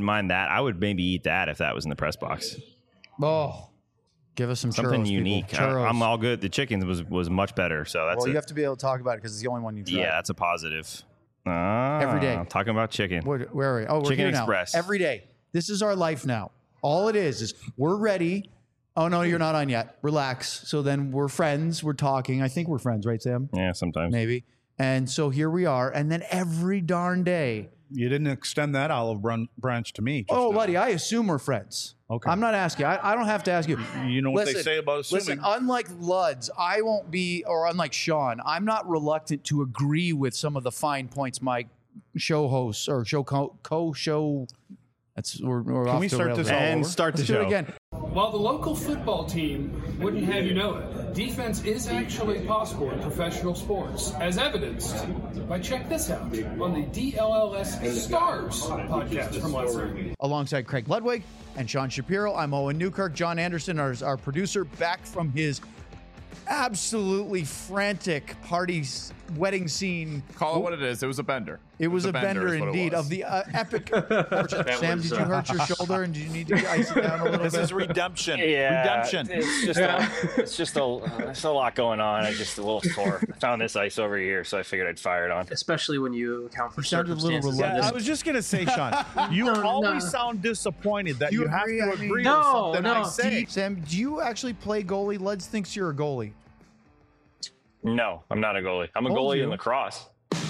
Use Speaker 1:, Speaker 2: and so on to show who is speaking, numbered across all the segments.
Speaker 1: mind that. I would maybe eat that if that was in the press box.
Speaker 2: Oh, give us
Speaker 1: something
Speaker 2: churros,
Speaker 1: unique. I'm all good. The chicken was much better. So that's
Speaker 2: you have to be able to talk about it because it's the only one you try.
Speaker 1: Yeah, that's a positive.
Speaker 2: Every day.
Speaker 1: I'm talking about chicken.
Speaker 2: Where are we? Oh, we're
Speaker 1: Chicken
Speaker 2: here
Speaker 1: Express.
Speaker 2: now. Every day. This is our life now. All it is we're ready. Oh, no, you're not on yet. Relax. So then we're friends. We're talking. I think we're friends, right, Sam?
Speaker 1: Yeah, sometimes.
Speaker 2: Maybe. And so here we are. And then every darn day.
Speaker 3: You didn't extend that olive branch to me.
Speaker 2: Oh, Luddy, I assume we're friends.
Speaker 3: Okay.
Speaker 2: I'm not asking. I don't have to ask you.
Speaker 3: You know what they say about assuming.
Speaker 2: Listen, unlike Luds, I won't be, or unlike Sean, I'm not reluctant to agree with some of the fine points my show hosts or show co-show. We're
Speaker 3: Can
Speaker 2: off
Speaker 3: we
Speaker 2: the
Speaker 3: start
Speaker 2: rails.
Speaker 3: this all
Speaker 1: And
Speaker 3: over?
Speaker 1: start the
Speaker 2: Let's do
Speaker 1: show
Speaker 2: it again.
Speaker 4: While the local football team wouldn't have you know it, defense is actually possible in professional sports, as evidenced by check this out on the DLLS Stars podcast from last night.
Speaker 2: Alongside Craig Ludwig and Sean Shapiro, I'm Owen Newkirk. John Anderson, our producer, back from his absolutely frantic wedding scene.
Speaker 5: Call it what it is. It was a bender.
Speaker 2: It was a bender
Speaker 5: is what it
Speaker 2: indeed
Speaker 5: was.
Speaker 2: of the epic. Sam, did you hurt your shoulder and do you need to ice it down a little bit?
Speaker 3: This is redemption.
Speaker 6: Yeah,
Speaker 3: Redemption.
Speaker 6: It's just there's a lot going on. I'm just a little sore. I found this ice over here, so I figured I'd fire it on.
Speaker 7: Especially when you account for
Speaker 2: sounded a little
Speaker 7: circumstances.
Speaker 2: reluctant.
Speaker 3: I was just going to say, Sean, you always sound disappointed that you have to agree with
Speaker 7: No,
Speaker 3: something
Speaker 7: no.
Speaker 3: I say.
Speaker 2: Sam, do you actually play goalie? Luds thinks you're a goalie.
Speaker 6: No, I'm not a goalie. I'm a
Speaker 2: Told
Speaker 6: goalie
Speaker 2: you.
Speaker 6: in lacrosse.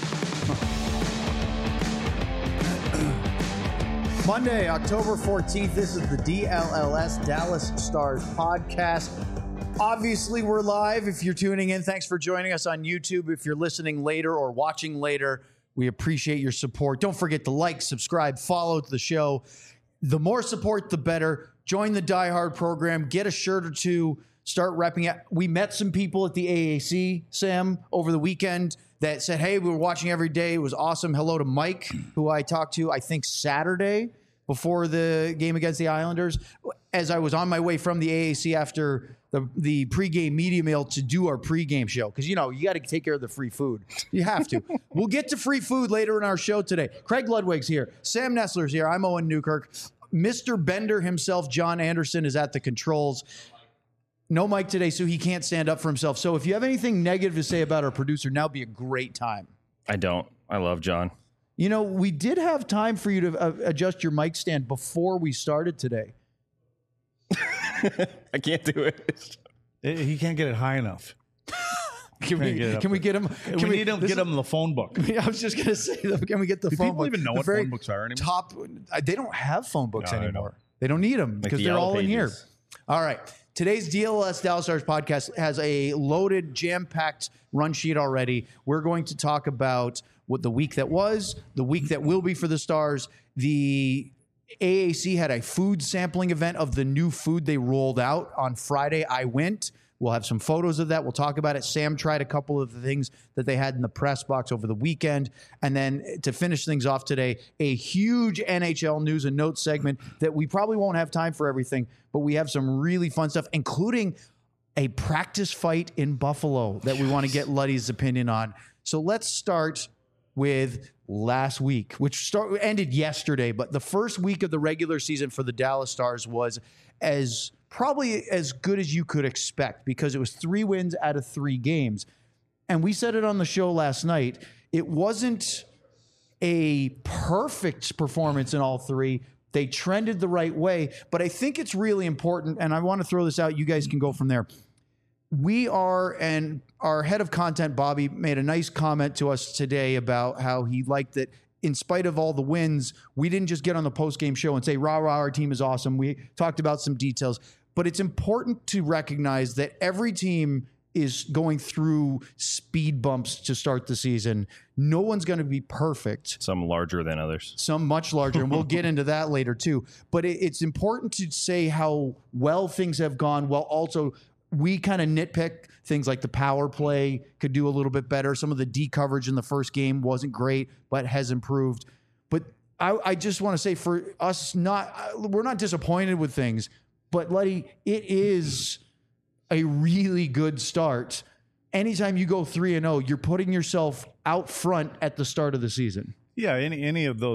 Speaker 2: Monday, October 14th. This is the DLLS Dallas Stars podcast. Obviously, we're live. If you're tuning in, thanks for joining us on YouTube. If you're listening later or watching later, we appreciate your support. Don't forget to like, subscribe, follow the show. The more support, the better. Join the Die Hard program. Get a shirt or two. Start repping it. We met some people at the AAC, Sam, over the weekend that said, hey, we were watching every day. It was awesome. Hello to Mike, who I talked to, I think, Saturday before the game against the Islanders. As I was on my way from the AAC after the pregame media mail to do our pregame show. Because, you got to take care of the free food. You have to. We'll get to free food later in our show today. Craig Ludwig's here. Sam Nestler's here. I'm Owen Newkirk. Mr. Bender himself, John Anderson, is at the controls. No Mike today, so he can't stand up for himself. So if you have anything negative to say about our producer, now would be a great time.
Speaker 1: I don't. I love John.
Speaker 2: We did have time for you to adjust your mic stand before we started today.
Speaker 1: I can't do it.
Speaker 3: He can't get it high enough.
Speaker 2: Can we get him?
Speaker 3: We need to get him the phone book.
Speaker 2: I was just going to say, can we get the phone book?
Speaker 3: People even know what phone books are anymore?
Speaker 2: They don't have phone books
Speaker 3: No, they
Speaker 2: anymore.
Speaker 3: don't.
Speaker 2: They don't need them because
Speaker 1: the
Speaker 2: they're
Speaker 1: Yellow
Speaker 2: all in here.
Speaker 1: Pages.
Speaker 2: All right. Today's DLS Dallas Stars podcast has a loaded, jam-packed run sheet already. We're going to talk about what the week that was, the week that will be for the Stars. The AAC had a food sampling event of the new food they rolled out on Friday. I went. We'll have some photos of that. We'll talk about it. Sam tried a couple of the things that they had in the press box over the weekend. And then to finish things off today, a huge NHL news and notes segment that we probably won't have time for everything, but we have some really fun stuff, including a practice fight in Buffalo that we want to get Luddy's opinion on. So let's start with last week, which ended yesterday. But the first week of the regular season for the Dallas Stars was probably as good as you could expect because it was 3 wins out of 3 games. And we said it on the show last night. It wasn't a perfect performance in all 3. They trended the right way. But I think it's really important, and I want to throw this out. You guys can go from there. And our head of content, Bobby, made a nice comment to us today about how he liked that in spite of all the wins, we didn't just get on the post-game show and say, rah, rah, our team is awesome. We talked about some details. But it's important to recognize that every team is going through speed bumps to start the season. No one's going to be perfect.
Speaker 1: Some larger than others.
Speaker 2: Some much larger, and we'll get into that later too. But it's important to say how well things have gone, while also we kind of nitpick things like the power play could do a little bit better. Some of the D coverage in the first game wasn't great, but has improved. But I just want to say for us, we're not disappointed with things, but Luddy, it is a really good start. Anytime you go 3-0, you're putting yourself out front at the start of the season.
Speaker 3: Yeah, any of those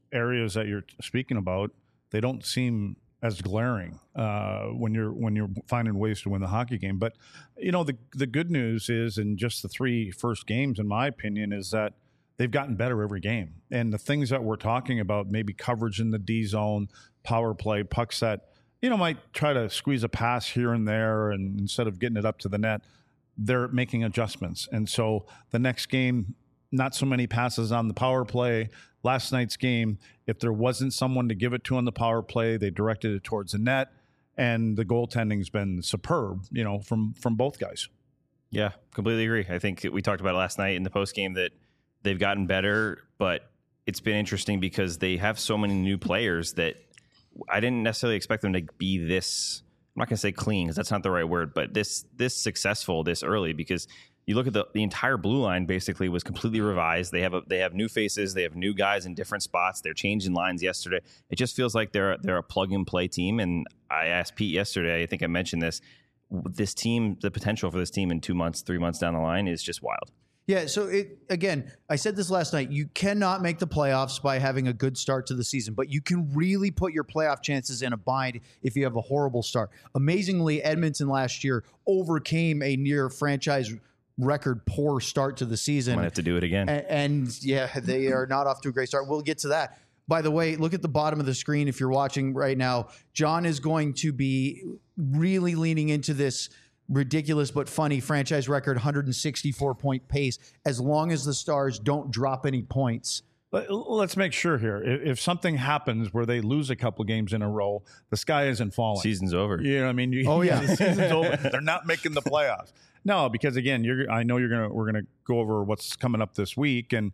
Speaker 3: areas that you're speaking about, they don't seem as glaring when you're finding ways to win the hockey game. But the good news is, in just the 3 first games, in my opinion, is that they've gotten better every game. And the things that we're talking about, maybe coverage in the D zone, power play, pucks that might try to squeeze a pass here and there, and instead of getting it up to the net, they're making adjustments. And so the next game, not so many passes on the power play. Last night's game, if there wasn't someone to give it to on the power play, they directed it towards the net, and the goaltending's been superb, from both guys.
Speaker 1: Yeah, completely agree. I think we talked about it last night in the post game that they've gotten better, but it's been interesting because they have so many new players that I didn't necessarily expect them to be this. I'm not going to say clean because that's not the right word, but this successful this early, because you look at the entire blue line basically was completely revised. They have new faces. They have new guys in different spots. They're changing lines yesterday. It just feels like they're a plug and play team. And I asked Pete yesterday, I think I mentioned this team, the potential for this team in 2 months, 3 months down the line is just wild.
Speaker 2: Yeah, so again, I said this last night, you cannot make the playoffs by having a good start to the season, but you can really put your playoff chances in a bind if you have a horrible start. Amazingly, Edmonton last year overcame a near franchise record poor start to the season.
Speaker 1: Might have to do it again.
Speaker 2: And yeah, they are not off to a great start. We'll get to that. By the way, look at the bottom of the screen if you're watching right now. John is going to be really leaning into this ridiculous but funny franchise record 164-point pace as long as the Stars don't drop any points.
Speaker 3: Let's make sure here. If something happens where they lose a couple games in a row, the sky isn't falling.
Speaker 1: Season's over.
Speaker 3: You know what I mean? The season's over. They're not making the playoffs. No, because again, I know we're gonna go over what's coming up this week, and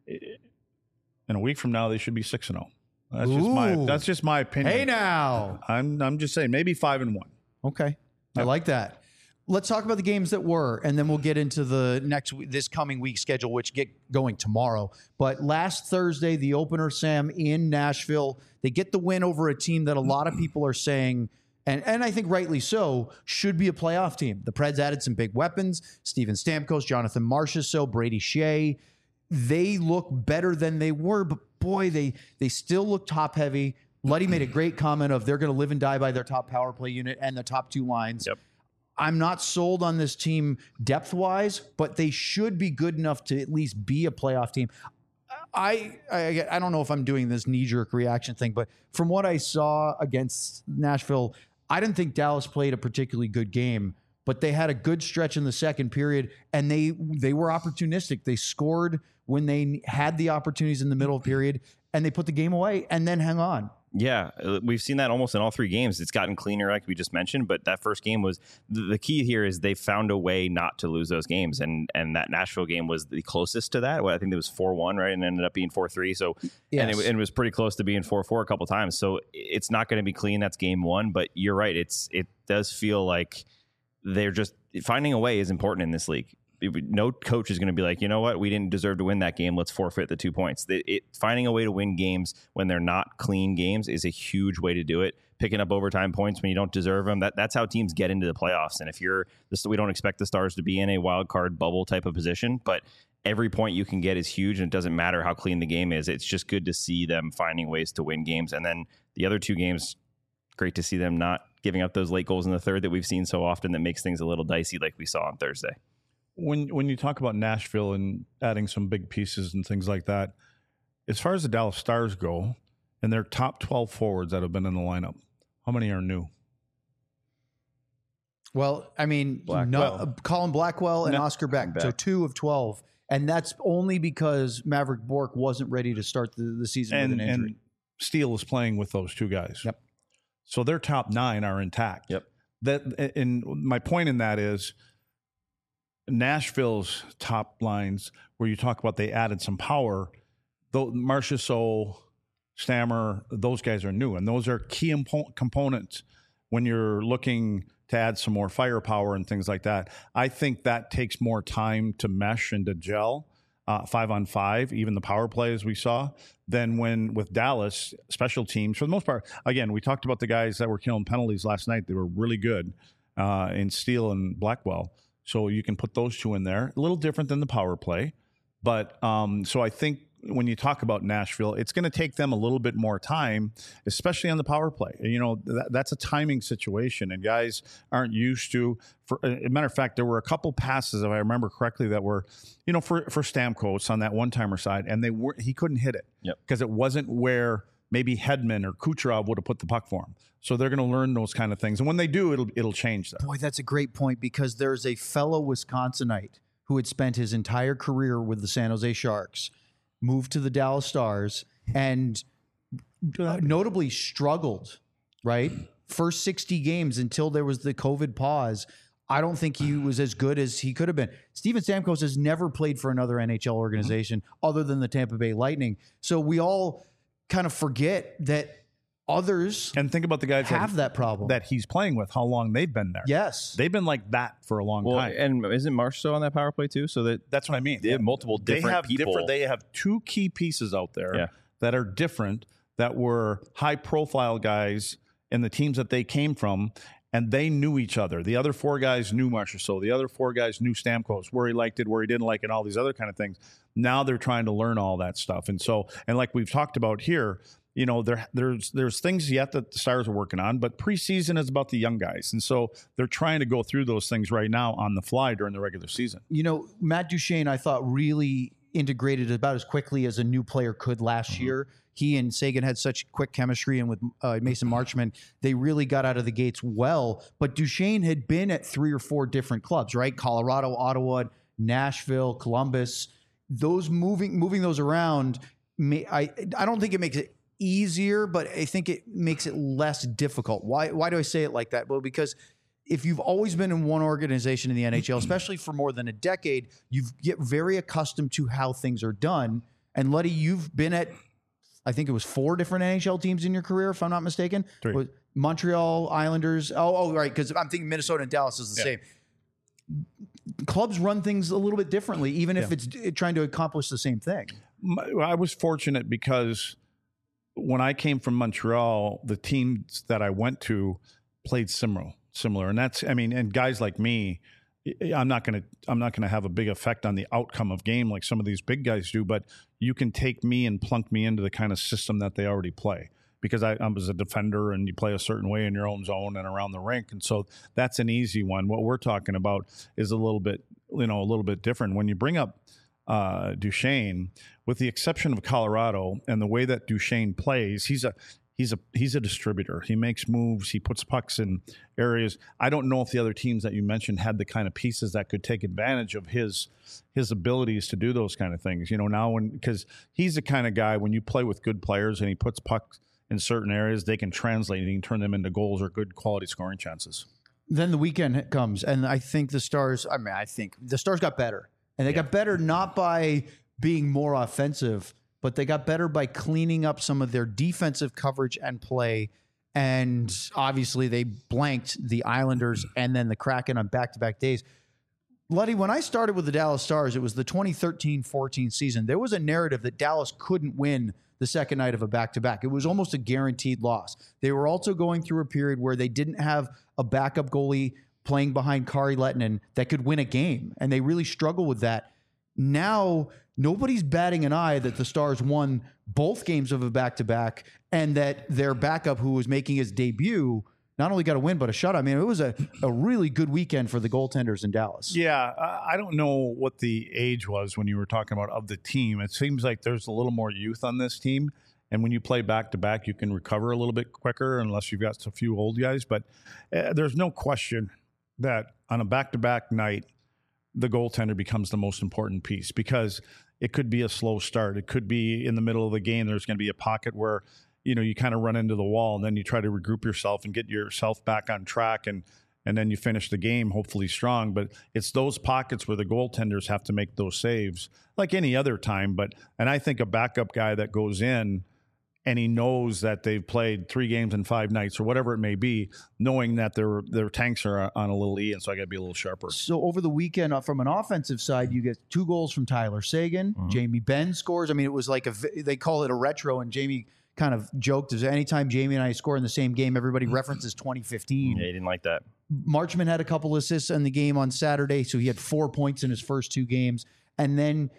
Speaker 3: in a week from now they should be 6-0. That's just my opinion.
Speaker 2: Hey now,
Speaker 3: I'm just saying maybe 5-1.
Speaker 2: Okay, yep. I like that. Let's talk about the games that were, and then we'll get into this coming week schedule, which get going tomorrow. But last Thursday, the opener, Sam, in Nashville, they get the win over a team that a lot of people are saying, and I think rightly so, should be a playoff team. The Preds added some big weapons: Steven Stamkos, Jonathan Marchessault, Brady Shea. They look better than they were, but boy, they still look top heavy. Luddy made a great comment of they're going to live and die by their top power play unit and the top 2 lines.
Speaker 1: Yep.
Speaker 2: I'm not sold on this team depth-wise, but they should be good enough to at least be a playoff team. I don't know if I'm doing this knee-jerk reaction thing, but from what I saw against Nashville, I didn't think Dallas played a particularly good game, but they had a good stretch in the second period, and they were opportunistic. They scored when they had the opportunities in the middle of the period, and they put the game away and then hung on.
Speaker 1: Yeah, we've seen that almost in all 3 games. It's gotten cleaner, like we just mentioned, but that first game was the key here is they found a way not to lose those games, and that Nashville game was the closest to that. I think it was 4-1, right, and ended up being 4-3. So, yes. And it was pretty close to being 4-4 a couple times. So it's not going to be clean. That's game 1, but you're right. It does feel like they're just finding a way is important in this league. No coach is going to be like, you know what, we didn't deserve to win that game. Let's forfeit the 2 points. Finding a way to win games when they're not clean games is a huge way to do it. Picking up overtime points when you don't deserve them. That's how teams get into the playoffs. And if we don't expect the Stars to be in a wild card bubble type of position, but every point you can get is huge, and it doesn't matter how clean the game is. It's just good to see them finding ways to win games. And then the other 2 games, great to see them not giving up those late goals in the third that we've seen so often that makes things a little dicey, like we saw on Thursday.
Speaker 3: When you talk about Nashville and adding some big pieces and things like that, as far as the Dallas Stars go, and their top 12 forwards that have been in the lineup, how many are new?
Speaker 2: Well, I mean, Colin Blackwell and Oscar Beck, so 2 of 12. And that's only because Maverick Bourque wasn't ready to start the season with an injury.
Speaker 3: And Steele is playing with those 2 guys.
Speaker 2: Yep.
Speaker 3: So their top 9 are intact.
Speaker 1: Yep.
Speaker 3: And my point in that is, Nashville's top lines, where you talk about they added some power, though Marchessault, Stammer, those guys are new, and those are key components when you're looking to add some more firepower and things like that. I think that takes more time to mesh and to gel 5-on-5, even the power play as we saw, than when with Dallas special teams for the most part. Again, we talked about the guys that were killing penalties last night. They were really good in Steele and Blackwell. So you can put those 2 in there. A little different than the power play. But so I think when you talk about Nashville, it's going to take them a little bit more time, especially on the power play. You know, that's a timing situation, and guys aren't used to. For a matter of fact, there were a couple passes, if I remember correctly, that were, you know, for Stamkos on that one-timer side, and he couldn't hit it because it wasn't where maybe Hedman or Kucherov would have put the puck for him. So they're going to learn those kind of things, and when they do, it'll change that.
Speaker 2: Boy, that's a great point, because there's a fellow Wisconsinite who had spent his entire career with the San Jose Sharks, moved to the Dallas Stars, and notably struggled, right? First 60 games until there was the COVID pause. I don't think he was as good as he could have been. Steven Stamkos has never played for another NHL organization other than the Tampa Bay Lightning. So we all kind of forget that others
Speaker 3: and think about the guys
Speaker 2: have that problem
Speaker 3: that he's playing with, how long they've been there.
Speaker 2: Yes.
Speaker 3: They've been like that for a long time.
Speaker 1: And isn't Marchessault on that power play too? So that's
Speaker 3: what I mean.
Speaker 1: They have multiple different people.
Speaker 3: They have two key pieces out there that are different, that were high profile guys in the teams that they came from, and they knew each other. The other four guys knew Marchessault. The other four guys knew Stamkos, where he liked it, where he didn't like it, all these other kind of things. Now they're trying to learn all that stuff. And like we've talked about here, you know, there's things yet that the Stars are working on, but preseason is about the young guys. And so they're trying to go through those things right now on the fly during the regular season.
Speaker 2: You know, Matt Duchene, I thought, really integrated about as quickly as a new player could last year. He and Sagan had such quick chemistry, and with Mason Marchment, they really got out of the gates well. But Duchene had been at 3 or 4 different clubs, right? Colorado, Ottawa, Nashville, Columbus. Those moving those around, I don't think it makes it easier, but I think it makes it less difficult. Why do I say it like that? Well, because if you've always been in one organization in the NHL, especially for more than a decade, you get very accustomed to how things are done. And Luddy, you've been at, I think it was 4 different NHL teams in your career, if I'm not mistaken.
Speaker 3: 3.
Speaker 2: Montreal, Islanders. Oh, right, because I'm thinking Minnesota and Dallas is the same. Clubs run things a little bit differently, even if it's trying to accomplish the same thing.
Speaker 3: I was fortunate because when I came from Montreal, the teams that I went to played similar. And that's, I mean, and guys like me, I'm not going to have a big effect on the outcome of game like some of these big guys do, but you can take me and plunk me into the kind of system that they already play, because I was a defender and you play a certain way in your own zone and around the rink. And so that's an easy one. What we're talking about is a little bit different. When you bring up Duchene, with the exception of Colorado and the way that Duchene plays, he's a distributor. He makes moves. He puts pucks in areas. I don't know if the other teams that you mentioned had the kind of pieces that could take advantage of his abilities to do those kind of things. You know, now because he's the kind of guy, when you play with good players and he puts pucks in certain areas, they can translate and he can turn them into goals or good quality scoring chances.
Speaker 2: Then the weekend comes, and I think the Stars got better. And they got better not by being more offensive, but they got better by cleaning up some of their defensive coverage and play. And obviously they blanked the Islanders and then the Kraken on back-to-back days. Luddy, when I started with the Dallas Stars, it was the 2013-14 season. There was a narrative that Dallas couldn't win the second night of a back-to-back. It was almost a guaranteed loss. They were also going through a period where they didn't have a backup goalie playing behind Kari Lehtinen that could win a game, and they really struggle with that. Now, nobody's batting an eye that the Stars won both games of a back-to-back, and that their backup, who was making his debut, not only got a win, but a shutout. I mean, it was a really good weekend for the goaltenders in Dallas.
Speaker 3: Yeah, I don't know what the age was when you were talking about of the team. It seems like there's a little more youth on this team. And when you play back-to-back, you can recover a little bit quicker unless you've got a few old guys. But there's no question that on a back-to-back night, the goaltender becomes the most important piece, because it could be a slow start. It could be in the middle of the game. There's going to be a pocket where, you know, you kind of run into the wall, and then you try to regroup yourself and get yourself back on track, and then you finish the game hopefully strong. But it's those pockets where the goaltenders have to make those saves like any other time. And I think a backup guy that goes in and he knows that they've played 3 games in 5 nights or whatever it may be, knowing that their tanks are on a little E, and so I got to be a little sharper.
Speaker 2: So over the weekend, from an offensive side, you get 2 goals from Tyler Seguin. Mm-hmm. Jamie Benn scores. I mean, it was like they call it a retro, and Jamie kind of joked, anytime Jamie and I score in the same game, everybody references 2015.
Speaker 1: Yeah, he didn't like that.
Speaker 2: Marchment had a couple assists in the game on Saturday, so he had 4 points in his first 2 games. And then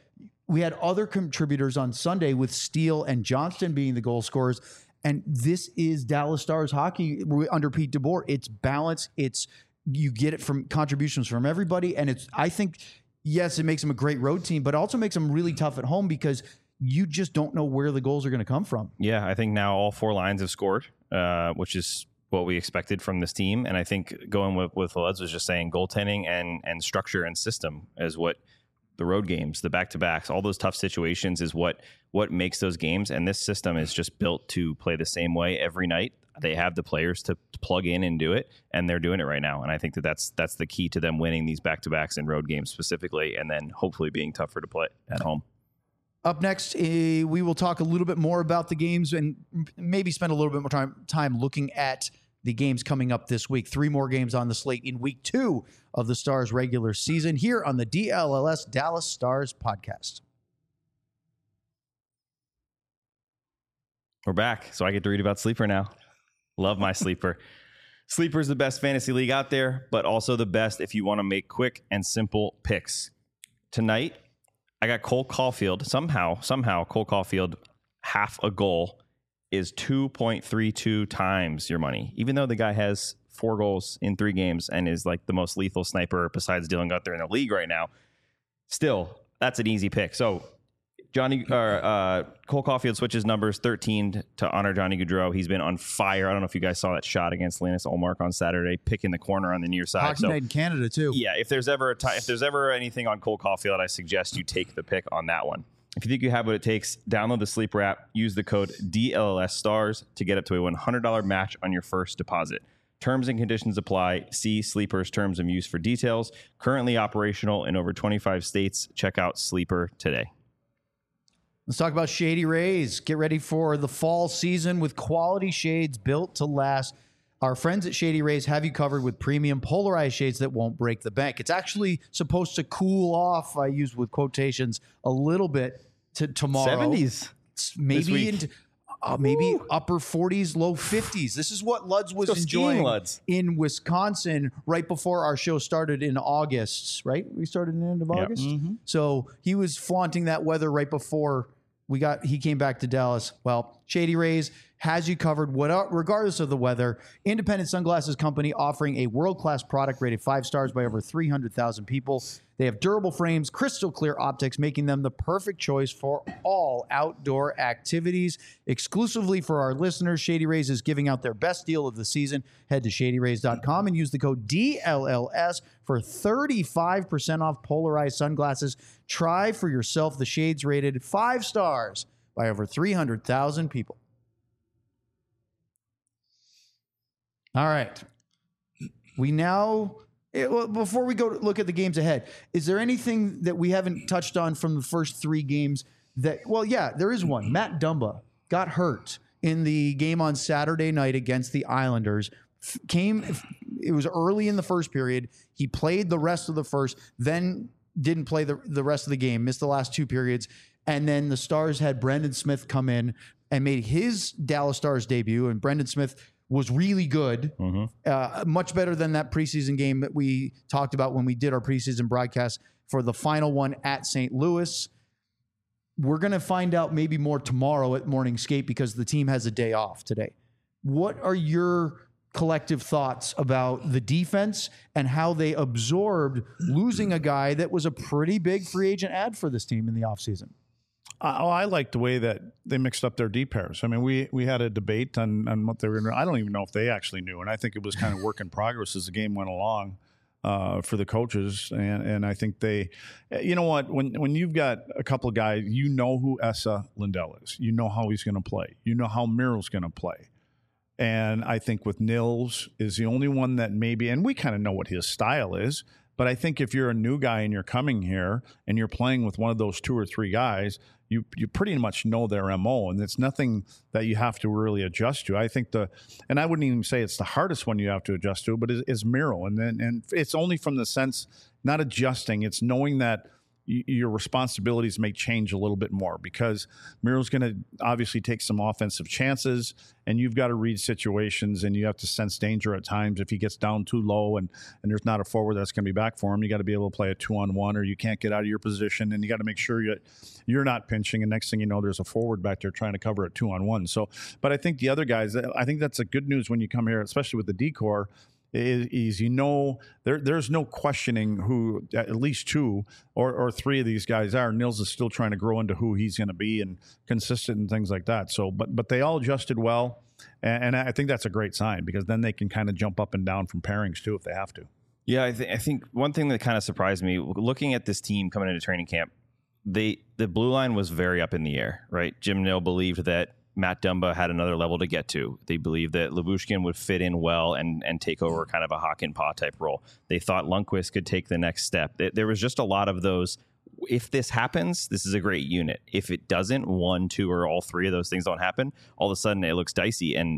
Speaker 2: we had other contributors on Sunday with Steele and Johnston being the goal scorers. And this is Dallas Stars hockey under Pete DeBoer. It's balance. You get it from contributions from everybody. And I think, yes, it makes them a great road team, but also makes them really tough at home because you just don't know where the goals are going to come from.
Speaker 1: Yeah, I think now all 4 lines have scored, which is what we expected from this team. And I think going with what Lutz was just saying, goaltending and structure and system is what the road games, the back-to-backs, all those tough situations is what makes those games. And this system is just built to play the same way every night. They have the players to plug in and do it, and they're doing it right now. And I think that's the key to them winning these back-to-backs and road games specifically, and then hopefully being tougher to play at home.
Speaker 2: Up next, we will talk a little bit more about the games and maybe spend a little bit more time looking at the games coming up this week. 3 more games on the slate in week 2 of the Stars regular season here on the DLLS Dallas Stars podcast.
Speaker 1: We're back, so I get to read about Sleeper now. Love my Sleeper. Sleeper is the best fantasy league out there, but also the best if you want to make quick and simple picks. Tonight, I got Cole Caulfield. Somehow, Cole Caulfield, half a goal is 2.32 times your money, even though the guy has 4 goals in 3 games and is like the most lethal sniper besides Dylan Gunther in the league right now. Still, that's an easy pick. So Cole Caulfield switches numbers 13 to honor Johnny Gaudreau. He's been on fire. I don't know if you guys saw that shot against Linus Ullmark on Saturday, picking the corner on the near side.
Speaker 2: Hockey Night in Canada too.
Speaker 1: Yeah, if there's ever anything on Cole Caulfield, I suggest you take the pick on that one. If you think you have what it takes, download the Sleeper app, use the code DLLSSTARS to get up to a $100 match on your first deposit. Terms and conditions apply. See Sleeper's terms of use for details. Currently operational in over 25 states. Check out Sleeper today.
Speaker 2: Let's talk about Shady Rays. Get ready for the fall season with quality shades built to last. Our friends at Shady Rays have you covered with premium polarized shades that won't break the bank. It's actually supposed to cool off, I use with quotations, a little bit to tomorrow.
Speaker 1: 70s.
Speaker 2: Maybe into maybe upper 40s, low 50s. This is what Luds was enjoying in Wisconsin right before our show started in August, right? We started in the end of August. Mm-hmm. So he was flaunting that weather right before he came back to Dallas. Well, Shady Rays has you covered regardless of the weather. Independent sunglasses company offering a world-class product rated 5 stars by over 300,000 people. They have durable frames, crystal clear optics, making them the perfect choice for all outdoor activities. Exclusively for our listeners, Shady Rays is giving out their best deal of the season. Head to shadyrays.com and use the code DLLS for 35% off polarized sunglasses. Try for yourself the shades rated 5 stars by over 300,000 people. All right. Before we go look at the games ahead, is there anything that we haven't touched on from the first 3 games there is one. Matt Dumba got hurt in the game on Saturday night against the Islanders. It was early in the first period. He played the rest of the first, then didn't play the rest of the game, missed the last 2 periods. And then the Stars had Brendan Smith come in and made his Dallas Stars debut. And Brendan Smith was really good, much better than that preseason game that we talked about when we did our preseason broadcast for the final one at St. Louis. We're going to find out maybe more tomorrow at Morning Skate because the team has a day off today. What are your collective thoughts about the defense and how they absorbed losing a guy that was a pretty big free agent ad for this team in the offseason?
Speaker 3: I like the way that they mixed up their D pairs. I mean, we had a debate on what they were going to. I don't even know if they actually knew, and I think it was kind of work in progress as the game went along for the coaches. And I think they, you know what, when you've got a couple of guys, you know who Esa Lindell is. You know how he's going to play. You know how Merrill's going to play. And I think with Nils is the only one that maybe, and we kind of know what his style is. But I think if you're a new guy and you're coming here and you're playing with one of those 2 or 3 guys, you pretty much know their MO, and it's nothing that you have to really adjust to. I think and I wouldn't even say it's the hardest one you have to adjust to, but is Merrill. And it's only from the sense, not adjusting, it's knowing that your responsibilities may change a little bit more, because Miro's going to obviously take some offensive chances, and you've got to read situations, and you have to sense danger at times. If he gets down too low and there's not a forward that's going to be back for him, you got to be able to play a 2-on-1, or you can't get out of your position, and you got to make sure you're not pinching, and next thing you know, there's a forward back there trying to cover a 2-on-1. So, but I think the other guys, I think that's a good news when you come here, especially with the D-Corps, is there's no questioning who at least 2 or 3 of these guys are. Nils is still trying to grow into who he's going to be and consistent and things like that. So, but they all adjusted well, and I think that's a great sign, because then they can kind of jump up and down from pairings too if they have to.
Speaker 1: Yeah, I think one thing that kind of surprised me looking at this team coming into training camp, the blue line was very up in the air, right? Jim Nill believed that Matt Dumba had another level to get to. They believed that Lyubushkin would fit in well and take over kind of a Hakanpää type role. They thought Lundqvist could take the next step. There was just a lot of those. If this happens, this is a great unit. If it doesn't, 1, 2, or all 3 of those things don't happen, all of a sudden it looks dicey. And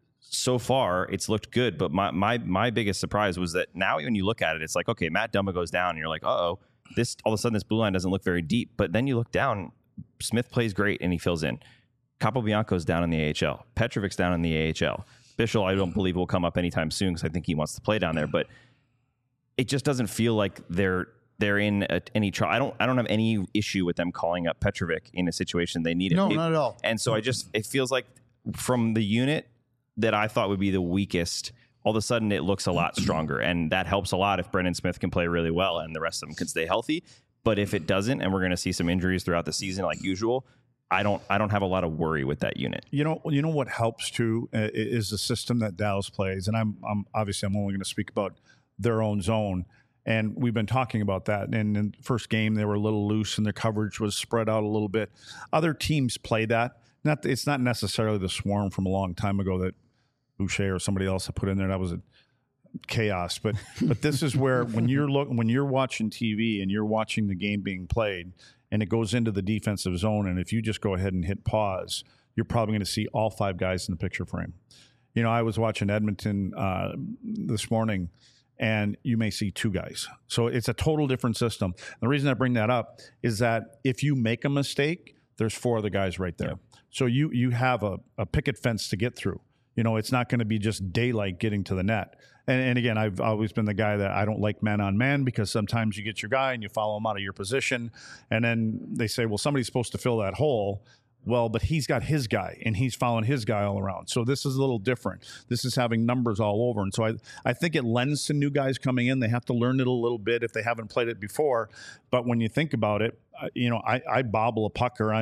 Speaker 1: so far it's looked good. But my biggest surprise was that now when you look at it, it's like, okay, Matt Dumba goes down and you're like, uh-oh, this all of a sudden this blue line doesn't look very deep. But then you look down, Smith plays great and he fills in. Capobianco's down in the AHL. Petrovic's down in the AHL. Bischel, I don't believe will come up anytime soon because I think he wants to play down there. But it just doesn't feel like they're in any trouble. I don't have any issue with them calling up Petrovic in a situation they need it.
Speaker 2: No, not at all.
Speaker 1: And so it feels like from the unit that I thought would be the weakest, all of a sudden it looks a lot stronger, and that helps a lot if Brendan Smith can play really well and the rest of them can stay healthy. But if it doesn't, and we're going to see some injuries throughout the season like usual, I don't have a lot of worry with that unit. You know
Speaker 3: what helps too is the system that Dallas plays, and I'm obviously only going to speak about their own zone, and we've been talking about that. And in the first game, they were a little loose, and their coverage was spread out a little bit. Other teams play that. It's not necessarily the Swarm from a long time ago that Boucher or somebody else had put in there. That was a chaos. But this is where when you're watching TV and you're watching the game being played, and it goes into the defensive zone, and if you just go ahead and hit pause, you're probably going to see all 5 guys in the picture frame. I was watching Edmonton this morning, and you may see 2 guys. So it's a total different system. The reason I bring that up is that if you make a mistake, there's 4 other guys right there. Yeah. So you have a picket fence to get through. It's not going to be just daylight getting to the net. And again, I've always been the guy that I don't like man-on-man, because sometimes you get your guy and you follow him out of your position, and then they say, well, somebody's supposed to fill that hole. Well, but he's got his guy, and he's following his guy all around. So this is a little different. This is having numbers all over. And so I think it lends to new guys coming in. They have to learn it a little bit if they haven't played it before. But when you think about it, I bobble a puck, or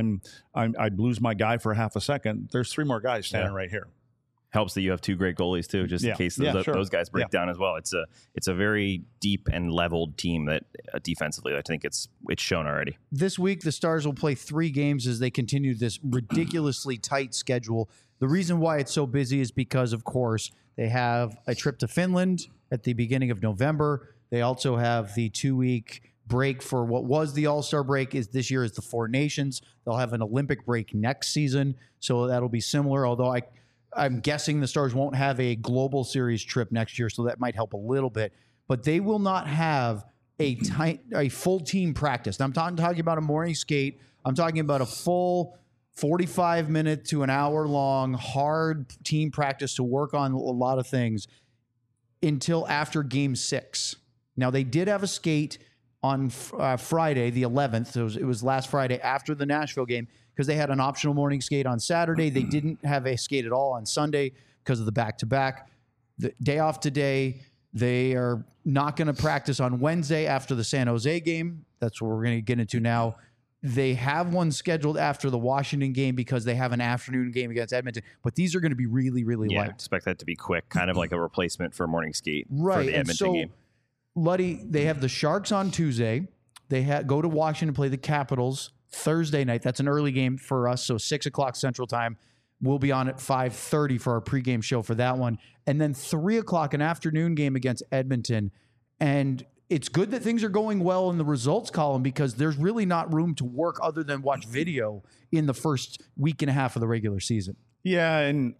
Speaker 3: I lose my guy for half a second. There's 3 more guys standing right here.
Speaker 1: Helps that you have 2 great goalies too, just in case those guys break down as well. It's a very deep and leveled team that defensively, I think it's shown already.
Speaker 2: This week, the Stars will play 3 games as they continue this ridiculously tight schedule. The reason why it's so busy is because, of course, they have a trip to Finland at the beginning of November. They also have the 2-week break for what was the All-Star break. This year is the 4 Nations. They'll have an Olympic break next season, so that'll be similar, although I'm guessing the Stars won't have a global series trip next year, so that might help a little bit. But they will not have a full team practice. Now, I'm talking about a morning skate. I'm talking about a full 45-minute to an hour-long hard team practice to work on a lot of things until after Game 6. Now, they did have a skate on Friday, the 11th. So it was last Friday after the Nashville game, because they had an optional morning skate on Saturday. They didn't have a skate at all on Sunday because of the back-to-back. The day off today, they are not going to practice on Wednesday after the San Jose game. That's what we're going to get into now. They have one scheduled after the Washington game because they have an afternoon game against Edmonton. But these are going to be really, really light.
Speaker 1: I expect that to be quick, kind of like a replacement for a morning skate for the Edmonton game.
Speaker 2: Luddy, they have the Sharks on Tuesday. They go to Washington, play the Capitals Thursday night. That's an early game for us, so 6 o'clock Central Time. We'll be on at 5:30 for our pregame show for that one. And then 3 o'clock, an afternoon game against Edmonton. And it's good that things are going well in the results column, because there's really not room to work other than watch video in the first week and a half of the regular season.
Speaker 3: Yeah, and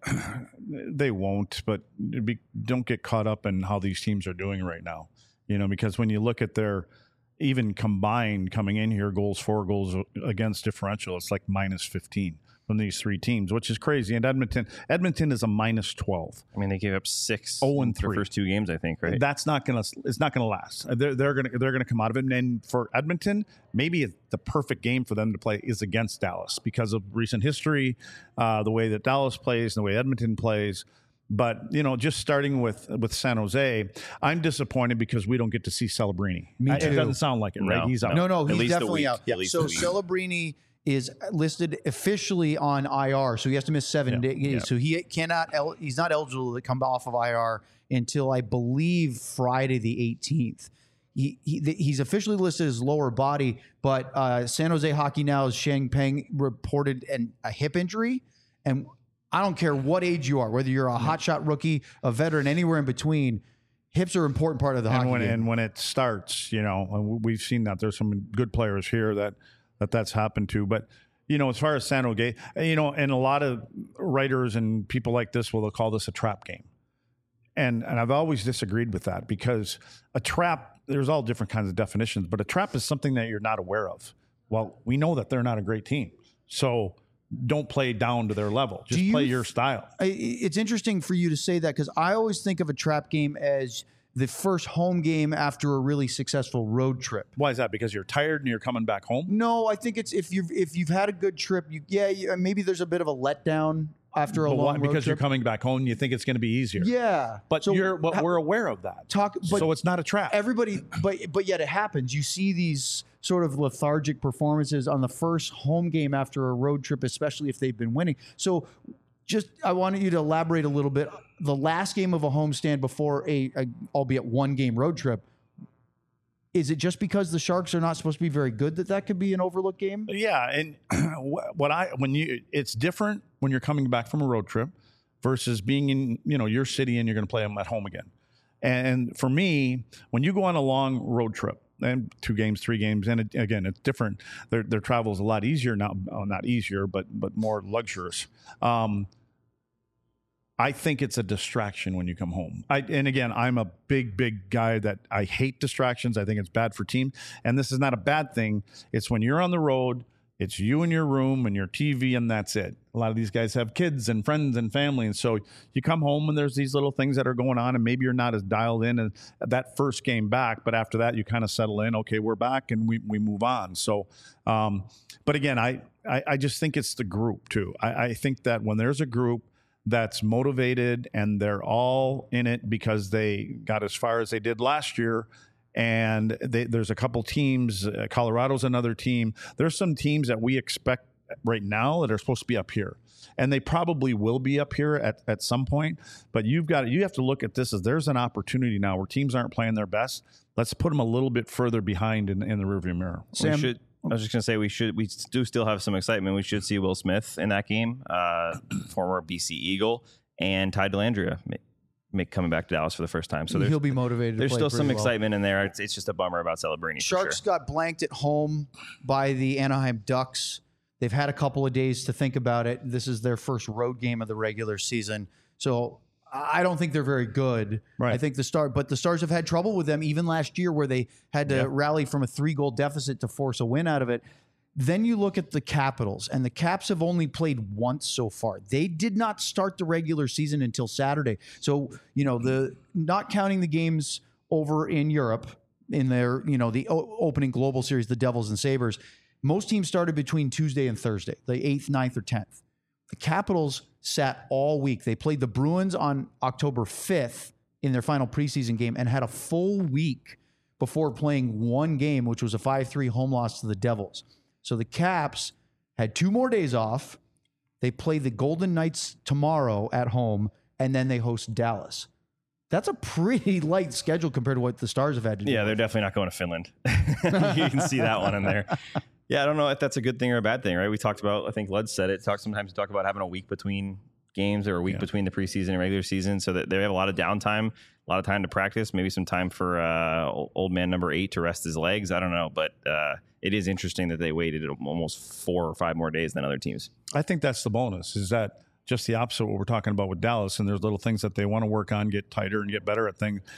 Speaker 3: they won't, but don't get caught up in how these teams are doing right now. Because when you look at their even combined coming in here, for goals against differential, it's like minus 15 from these three teams, which is crazy. And Edmonton is a minus 12.
Speaker 1: I mean, they gave up 6
Speaker 3: 0-3
Speaker 1: in their first 2 games, I think, right?
Speaker 3: That's not gonna. It's not gonna last. They're gonna come out of it. And for Edmonton, maybe the perfect game for them to play is against Dallas because of recent history, the way that Dallas plays, and the way Edmonton plays. But, just starting with San Jose, I'm disappointed because we don't get to see Celebrini.
Speaker 2: Me too.
Speaker 3: It doesn't sound like it, right?
Speaker 1: No,
Speaker 3: He's out.
Speaker 2: No,
Speaker 1: At
Speaker 2: he's
Speaker 1: least a
Speaker 2: definitely
Speaker 1: week.
Speaker 2: out.
Speaker 1: At least
Speaker 2: So
Speaker 1: a week.
Speaker 2: Celebrini is listed officially on IR, so he has to miss 7 days.
Speaker 3: Yeah.
Speaker 2: So he cannot. He's not eligible to come off of IR until I believe Friday the 18th. He's officially listed as lower body, but San Jose Hockey Now's Sheng Peng reported a hip injury, and I don't care what age you are, whether you're a hotshot rookie, a veteran, anywhere in between. Hips are an important part of the hockey game.
Speaker 3: And when it starts, and we've seen that there's some good players here that's happened to. But, as far as San Jose, and a lot of writers and people like this will call this a trap game. And I've always disagreed with that because a trap, there's all different kinds of definitions, but a trap is something that you're not aware of. Well, we know that they're not a great team. So don't play down to their level. Just play your style.
Speaker 2: It's interesting for you to say that because I always think of a trap game as the first home game after a really successful road trip.
Speaker 3: Why is that? Because you're tired and you're coming back home?
Speaker 2: No, I think it's if you've had a good trip, maybe there's a bit of a letdown after a long road
Speaker 3: because
Speaker 2: trip.
Speaker 3: You're coming back home and you think it's going to be easier.
Speaker 2: Yeah.
Speaker 3: But we're aware of that. So it's not a trap.
Speaker 2: Everybody, but yet it happens. You see these sort of lethargic performances on the first home game after a road trip, especially if they've been winning. So I wanted you to elaborate a little bit. The last game of a homestand before a albeit one game road trip, is it just because the Sharks are not supposed to be very good that could be an overlooked game?
Speaker 3: Yeah, and it's different when you're coming back from a road trip versus being in your city and you're going to play them at home again. And for me, when you go on a long road trip and 2 games, 3 games, and again it's different. Their travel is a lot easier now, not easier, but more luxurious. I think it's a distraction when you come home. And again, I'm a big guy that I hate distractions. I think it's bad for team. And this is not a bad thing. It's when you're on the road, it's you in your room and your TV, and that's it. A lot of these guys have kids and friends and family. And so you come home and there's these little things that are going on, and maybe you're not as dialed in as that first game back. But after that, you kind of settle in. Okay, we're back, and we move on. So, but again, I just think it's the group too. I think that when there's a group that's motivated and they're all in it because they got as far as they did last year, and there's a couple teams, Colorado's another team. There's some teams that we expect right now that are supposed to be up here, and they probably will be up here at some point. But you have to look at this as there's an opportunity now where teams aren't playing their best. Let's put them a little bit further behind in the rearview mirror.
Speaker 2: Sam,
Speaker 1: I was just going to say we do still have some excitement. We should see Will Smith in that game, former BC Eagle, and Ty Dellandrea coming back to Dallas for the first time. So
Speaker 2: he'll be motivated.
Speaker 1: There's still some
Speaker 2: well.
Speaker 1: excitement in there. It's just a bummer about Celebrini.
Speaker 2: Sharks got blanked at home by the Anaheim Ducks. They've had a couple of days to think about it. This is their first road game of the regular season. So I don't think they're very good.
Speaker 3: Right.
Speaker 2: I think the Stars have had trouble with them even last year where they had to rally from a 3-goal deficit to force a win out of it. Then you look at the Capitals, and the Caps have only played once so far. They did not start the regular season until Saturday. So, the not counting the games over in Europe in their, the opening global series, the Devils and Sabres, most teams started between Tuesday and Thursday, the 8th, 9th, or 10th. The Capitals sat all week. They played the Bruins on October 5th in their final preseason game and had a full week before playing one game, which was a 5-3 home loss to the Devils. So the Caps had 2 more days off. They play the Golden Knights tomorrow at home, and then they host Dallas. That's a pretty light schedule compared to what the Stars have had to do.
Speaker 1: Yeah, they're definitely not going to Finland. You can see that one in there. Yeah, I don't know if that's a good thing or a bad thing, right? We talked about, I think Lud said it, sometimes you talk about having a week between games or a week between the preseason and regular season, so that they have a lot of downtime, a lot of time to practice, maybe some time for old man number 8 to rest his legs. I don't know, but it is interesting that they waited almost 4 or 5 more days than other teams.
Speaker 3: I think that's the bonus, is that just the opposite of what we're talking about with Dallas, and there's little things that they want to work on, get tighter and get better at things.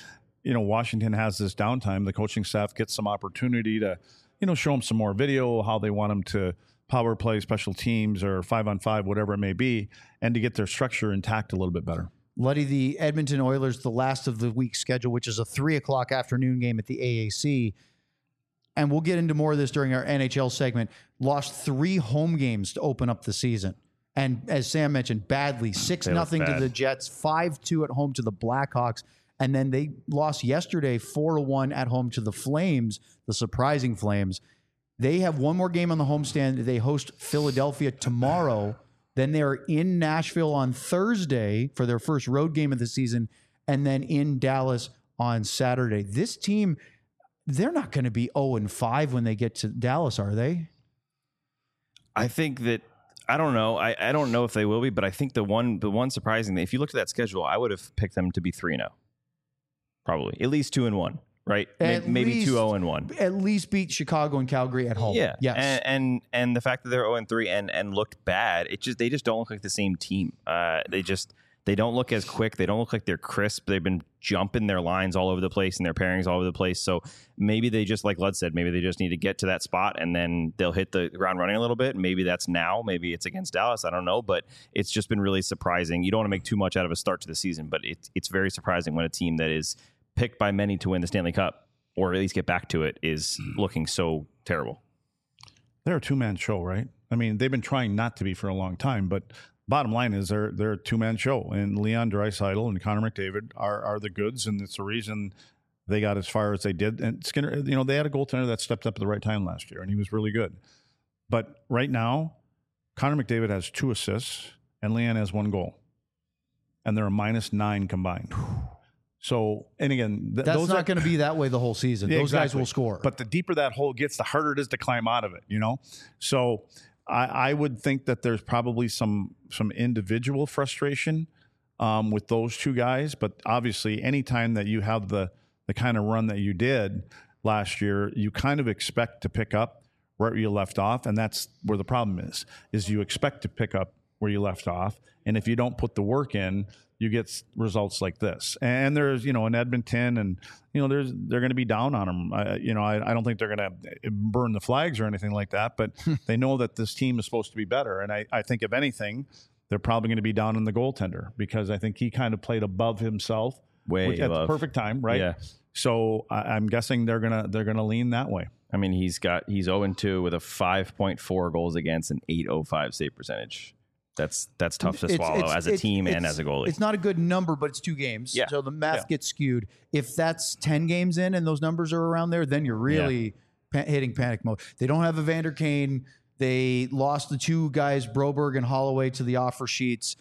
Speaker 3: Washington has this downtime, the coaching staff gets some opportunity to, show them some more video, how they want them to power play, special teams, or 5-on-5, whatever it may be, and to get their structure intact a little bit better.
Speaker 2: Luddy, the Edmonton Oilers, the last of the week's schedule, which is a 3:00 afternoon game at the AAC, and we'll get into more of this during our NHL segment, lost 3 home games to open up the season. And as Sam mentioned, badly, 6-0 to the Jets, 5-2 at home to the Blackhawks. And then they lost yesterday 4-1 at home to the Flames, the surprising Flames. They have one more game on the homestand. They host Philadelphia tomorrow. Then they're in Nashville on Thursday for their first road game of the season, and then in Dallas on Saturday. This team, they're not going to be 0-5 when they get to Dallas, are they?
Speaker 1: I think that, I don't know. I don't know if they will be, but I think the one surprising, if you looked at that schedule, I would have picked them to be 3-0. Probably. At least 2-1, right? Maybe 2-0-1.
Speaker 2: At least beat Chicago and Calgary at home.
Speaker 1: Yeah.
Speaker 2: Yes.
Speaker 1: And the fact that they're 0-3 and looked bad, they just don't look like the same team. They don't look as quick. They don't look like they're crisp. They've been jumping their lines all over the place and their pairings all over the place. So maybe they just, like Lud said, maybe they just need to get to that spot and then they'll hit the ground running a little bit. Maybe that's now. Maybe it's against Dallas. I don't know. But it's just been really surprising. You don't want to make too much out of a start to the season, but it's very surprising when a team that is picked by many to win the Stanley Cup, or at least get back to it, is looking so terrible.
Speaker 3: They're a two-man show, right? I mean, they've been trying not to be for a long time, but bottom line is they're a two-man show. And Leon Draisaitl and Connor McDavid are the goods, and it's the reason they got as far as they did. And Skinner, they had a goaltender that stepped up at the right time last year, and he was really good. But right now, Connor McDavid has 2 assists, and Leon has 1 goal. And they're a -9 combined. So, and again,
Speaker 2: that's not going to be that way the whole season.
Speaker 3: Yeah,
Speaker 2: those guys will score.
Speaker 3: But the deeper that hole gets, the harder it is to climb out of it, So I would think that there's probably some individual frustration with those 2 guys. But obviously, anytime that you have the kind of run that you did last year, you kind of expect to pick up where you left off. And that's where the problem is you expect to pick up where you left off. And if you don't put the work in, you get results like this. And there's, in Edmonton, and, they're going to be down on them. I don't think they're going to burn the flags or anything like that, but they know that this team is supposed to be better. And I think, if anything, they're probably going to be down on the goaltender, because I think he kind of played above himself
Speaker 1: at
Speaker 3: the perfect time, right?
Speaker 1: Yeah.
Speaker 3: So I'm guessing they're gonna lean that way.
Speaker 1: I mean, he's 0-2 with a 5.4 goals against an .805 save percentage. That's tough to swallow as a team and as a goalie.
Speaker 2: It's not a good number, but it's 2 games.
Speaker 1: Yeah.
Speaker 2: So the math gets skewed. If that's 10 games in and those numbers are around there, then you're really hitting panic mode. They don't have Evander Kane. They lost the 2 guys, Broberg and Holloway, to the offer sheets.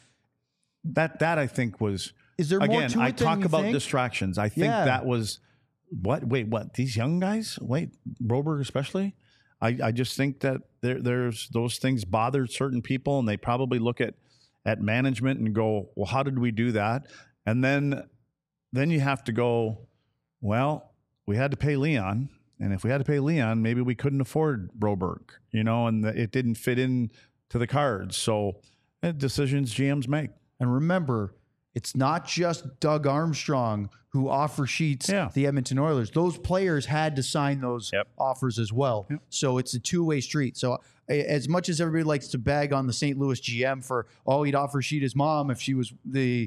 Speaker 3: That I think was...
Speaker 2: Is there more
Speaker 3: again,
Speaker 2: to it
Speaker 3: I
Speaker 2: than
Speaker 3: talk
Speaker 2: you
Speaker 3: about
Speaker 2: think?
Speaker 3: distractions. I think that was... What? Wait, what? These young guys? Wait, Broberg especially? I just think that there's those things bothered certain people, and they probably look at management and go, well, how did we do that? And then you have to go, well, we had to pay Leon, and if we had to pay Leon, maybe we couldn't afford Broberg, and it didn't fit in to the cards. So decisions GMs make.
Speaker 2: And remember, it's not just Doug Armstrong who offer sheets the Edmonton Oilers. Those players had to sign those offers as well. Yep. So it's a two-way street. So as much as everybody likes to bag on the St. Louis GM for, he'd offer sheet his mom if she was the,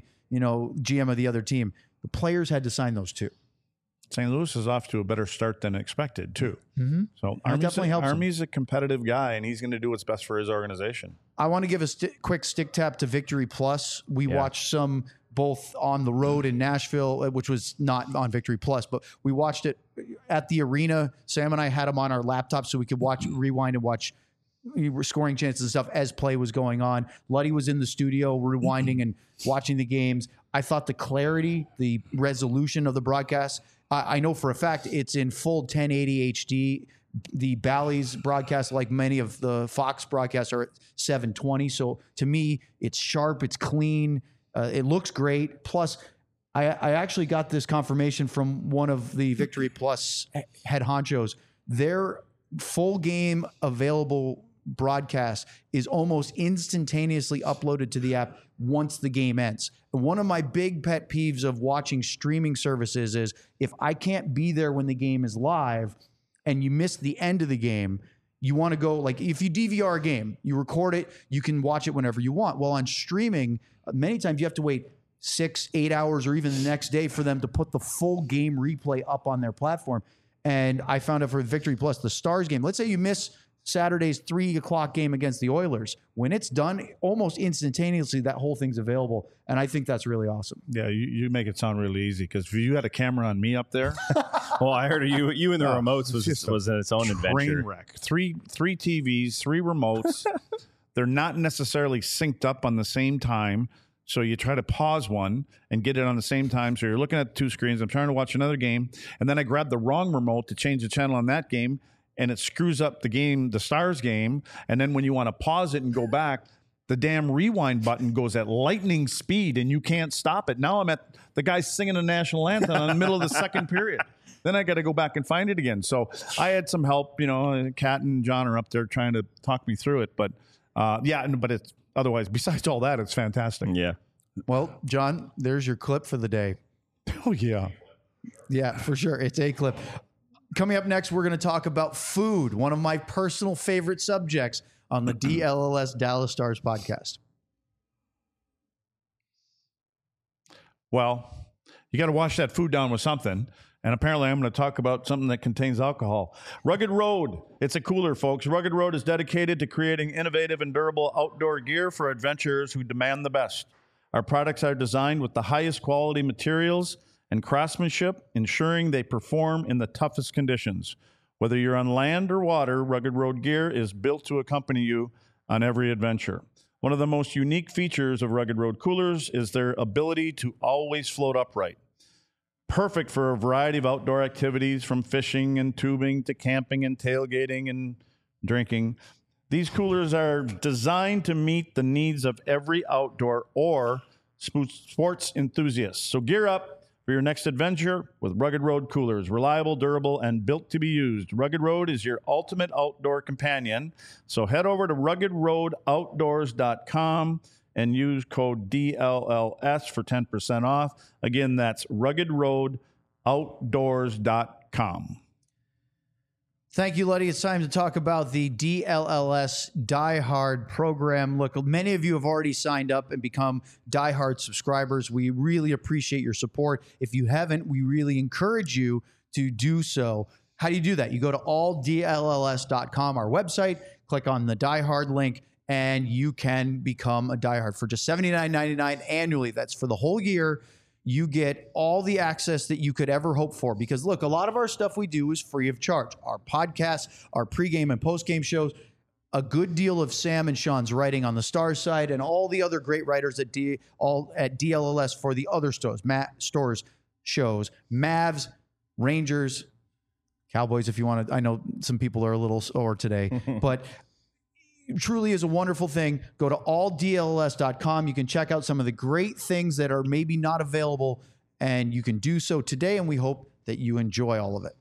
Speaker 2: GM of the other team, the players had to sign those too.
Speaker 3: St. Louis is off to a better start than expected too.
Speaker 2: Mm-hmm.
Speaker 3: So Army's a competitive guy, and he's going to do what's best for his organization.
Speaker 2: I want to give a quick stick tap to Victory Plus. We watched some both on the road in Nashville, which was not on Victory Plus, but we watched it at the arena. Sam and I had them on our laptop so we could rewind and watch scoring chances and stuff as play was going on. Luddy was in the studio rewinding and watching the games. I thought the clarity, the resolution of the broadcast, I know for a fact it's in full 1080 HD. The Bally's broadcast, like many of the Fox broadcasts, are at 720. So to me, it's sharp, it's clean, it looks great. Plus, I actually got this confirmation from one of the Victory Plus head honchos. Their full game available broadcast is almost instantaneously uploaded to the app once the game ends. And one of my big pet peeves of watching streaming services is if I can't be there when the game is live and you miss the end of the game, you want to go, like, if you DVR a game, you record it, you can watch it whenever you want. Well, on streaming, many times you have to wait 6-8 hours or even the next day for them to put the full game replay up on their platform. And I found out for Victory Plus, the Stars game, let's say you miss Saturday's 3 o'clock game against the Oilers. When it's done, almost instantaneously, that whole thing's available. And I think that's really awesome.
Speaker 3: Yeah, you make it sound really easy, because if you had a camera on me up there,
Speaker 1: Well, I heard you and the remotes was its own adventure.
Speaker 3: train wreck. Three TVs, 3 remotes. They're not necessarily synced up on the same time. So you try to pause one and get it on the same time. So you're looking at 2 screens. I'm trying to watch another game. And then I grab the wrong remote to change the channel on that game. And it screws up the game, the Stars game. And then when you want to pause it and go back, the damn rewind button goes at lightning speed and you can't stop it. Now I'm at the guy singing the national anthem in the middle of the second period. Then I got to go back and find it again. So I had some help. Kat and John are up there trying to talk me through it. But but it's otherwise, besides all that, it's fantastic.
Speaker 1: Yeah.
Speaker 2: Well, John, there's your clip for the day.
Speaker 3: Oh, yeah.
Speaker 2: Yeah, for sure. It's a clip. Coming up next, we're going to talk about food, one of my personal favorite subjects on the DLLS Dallas Stars podcast.
Speaker 3: Well, you got to wash that food down with something. And apparently I'm going to talk about something that contains alcohol. Rugged Road. It's a cooler, folks. Rugged Road is dedicated to creating innovative and durable outdoor gear for adventurers who demand the best. Our products are designed with the highest quality materials and craftsmanship, ensuring they perform in the toughest conditions. Whether you're on land or water, Rugged Road gear is built to accompany you on every adventure. One of the most unique features of Rugged Road coolers is their ability to always float upright. Perfect for a variety of outdoor activities, from fishing and tubing to camping and tailgating and drinking. These coolers are designed to meet the needs of every outdoor or sports enthusiast. So gear up for your next adventure with Rugged Road coolers. Reliable, durable, and built to be used. Rugged Road is your ultimate outdoor companion. So head over to ruggedroadoutdoors.com and use code DLLS for 10% off. Again, that's ruggedroadoutdoors.com.
Speaker 2: Thank you, Luddy. It's time to talk about the DLLS Die Hard program. Look, many of you have already signed up and become Die Hard subscribers. We really appreciate your support. If you haven't, we really encourage you to do so. How do you do that? You go to alldlls.com, our website, click on the Die Hard link, and you can become a Die Hard for just $79.99 annually. That's for the whole year. You get all the access that you could ever hope for. Because look, a lot of our stuff we do is free of charge. Our podcasts, our pregame and postgame shows, a good deal of Sam and Sean's writing on the Stars side, and all the other great writers at DLLS for the other shows, Mavs, Rangers, Cowboys, if you want to. I know some people are a little sore today, but truly is a wonderful thing. Go to alldlls.com. You can check out some of the great things that are maybe not available, and you can do so today, and we hope that you enjoy all of it.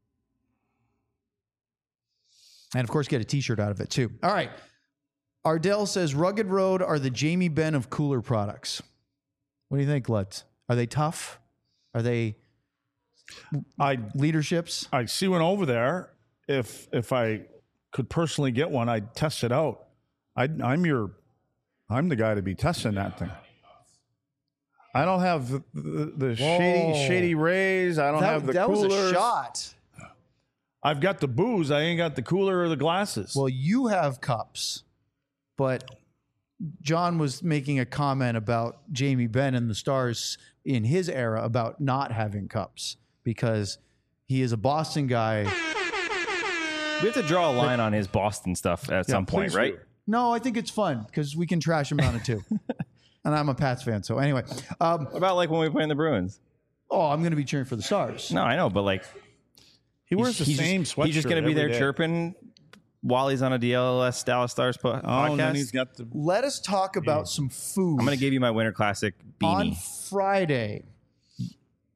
Speaker 2: And, of course, get a T-shirt out of it, too. All right. Ardell says, Rugged Road are the Jamie Benn of cooler products. What do you think, Lutz? Are they tough? Are they leaderships?
Speaker 3: I see one over there. If I could personally get one, I'd test it out. I'm the guy to be testing that thing. I don't have the shady rays. I don't have the coolers.
Speaker 2: That was a shot.
Speaker 3: I've got the booze. I ain't got the cooler or the glasses.
Speaker 2: Well, you have cups, but John was making a comment about Jamie Benn and the Stars in his era about not having cups because he is a Boston guy.
Speaker 1: We have to draw a line on his Boston stuff at some point, right?
Speaker 2: No, I think it's fun because we can trash him on it too. And I'm a Pats fan, so anyway.
Speaker 1: About like when we play in the Bruins.
Speaker 2: Oh, I'm going to be cheering for the Stars.
Speaker 1: No, I know, but like
Speaker 3: he wears the same sweatshirt.
Speaker 1: He's just going to be there chirping while he's on a DLLS Dallas Stars podcast.
Speaker 3: And then he's got the.
Speaker 2: Let us talk about some food.
Speaker 1: I'm going to give you my Winter Classic beanie.
Speaker 2: On Friday,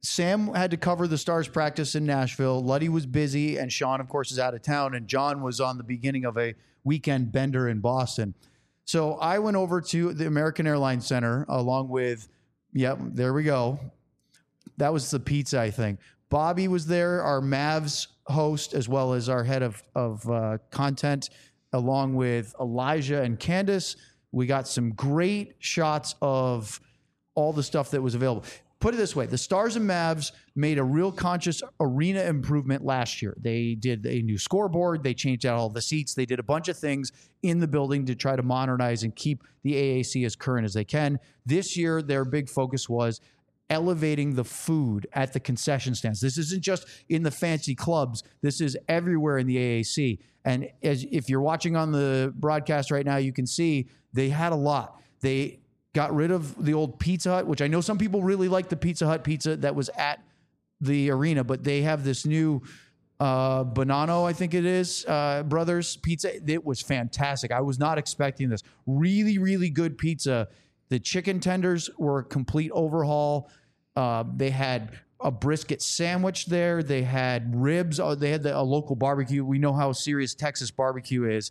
Speaker 2: Sam had to cover the Stars practice in Nashville. Luddy was busy, and Sean, of course, is out of town. And John was on the beginning of a weekend bender in Boston. So I went over to the American Airlines Center along with, there we go. That was the pizza, I think. Bobby was there, our Mavs host, as well as our head of content, along with Elijah and Candace. We got some great shots of all the stuff that was available. Put it this way, the Stars and Mavs made a real conscious arena improvement last year. They did a new scoreboard. They changed out all the seats. They did a bunch of things in the building to try to modernize and keep the AAC as current as they can. This year, their big focus was elevating the food at the concession stands. This isn't just in the fancy clubs. This is everywhere in the AAC. And if you're watching on the broadcast right now, you can see they had a lot. They got rid of the old Pizza Hut, which I know some people really like the Pizza Hut pizza that was at the arena, but they have this new Bonanno, I think it is, Brothers pizza. It was fantastic. I was not expecting this. Really, really good pizza. The chicken tenders were a complete overhaul. They had a brisket sandwich there. They had ribs. They had a local barbecue. We know how serious Texas barbecue is.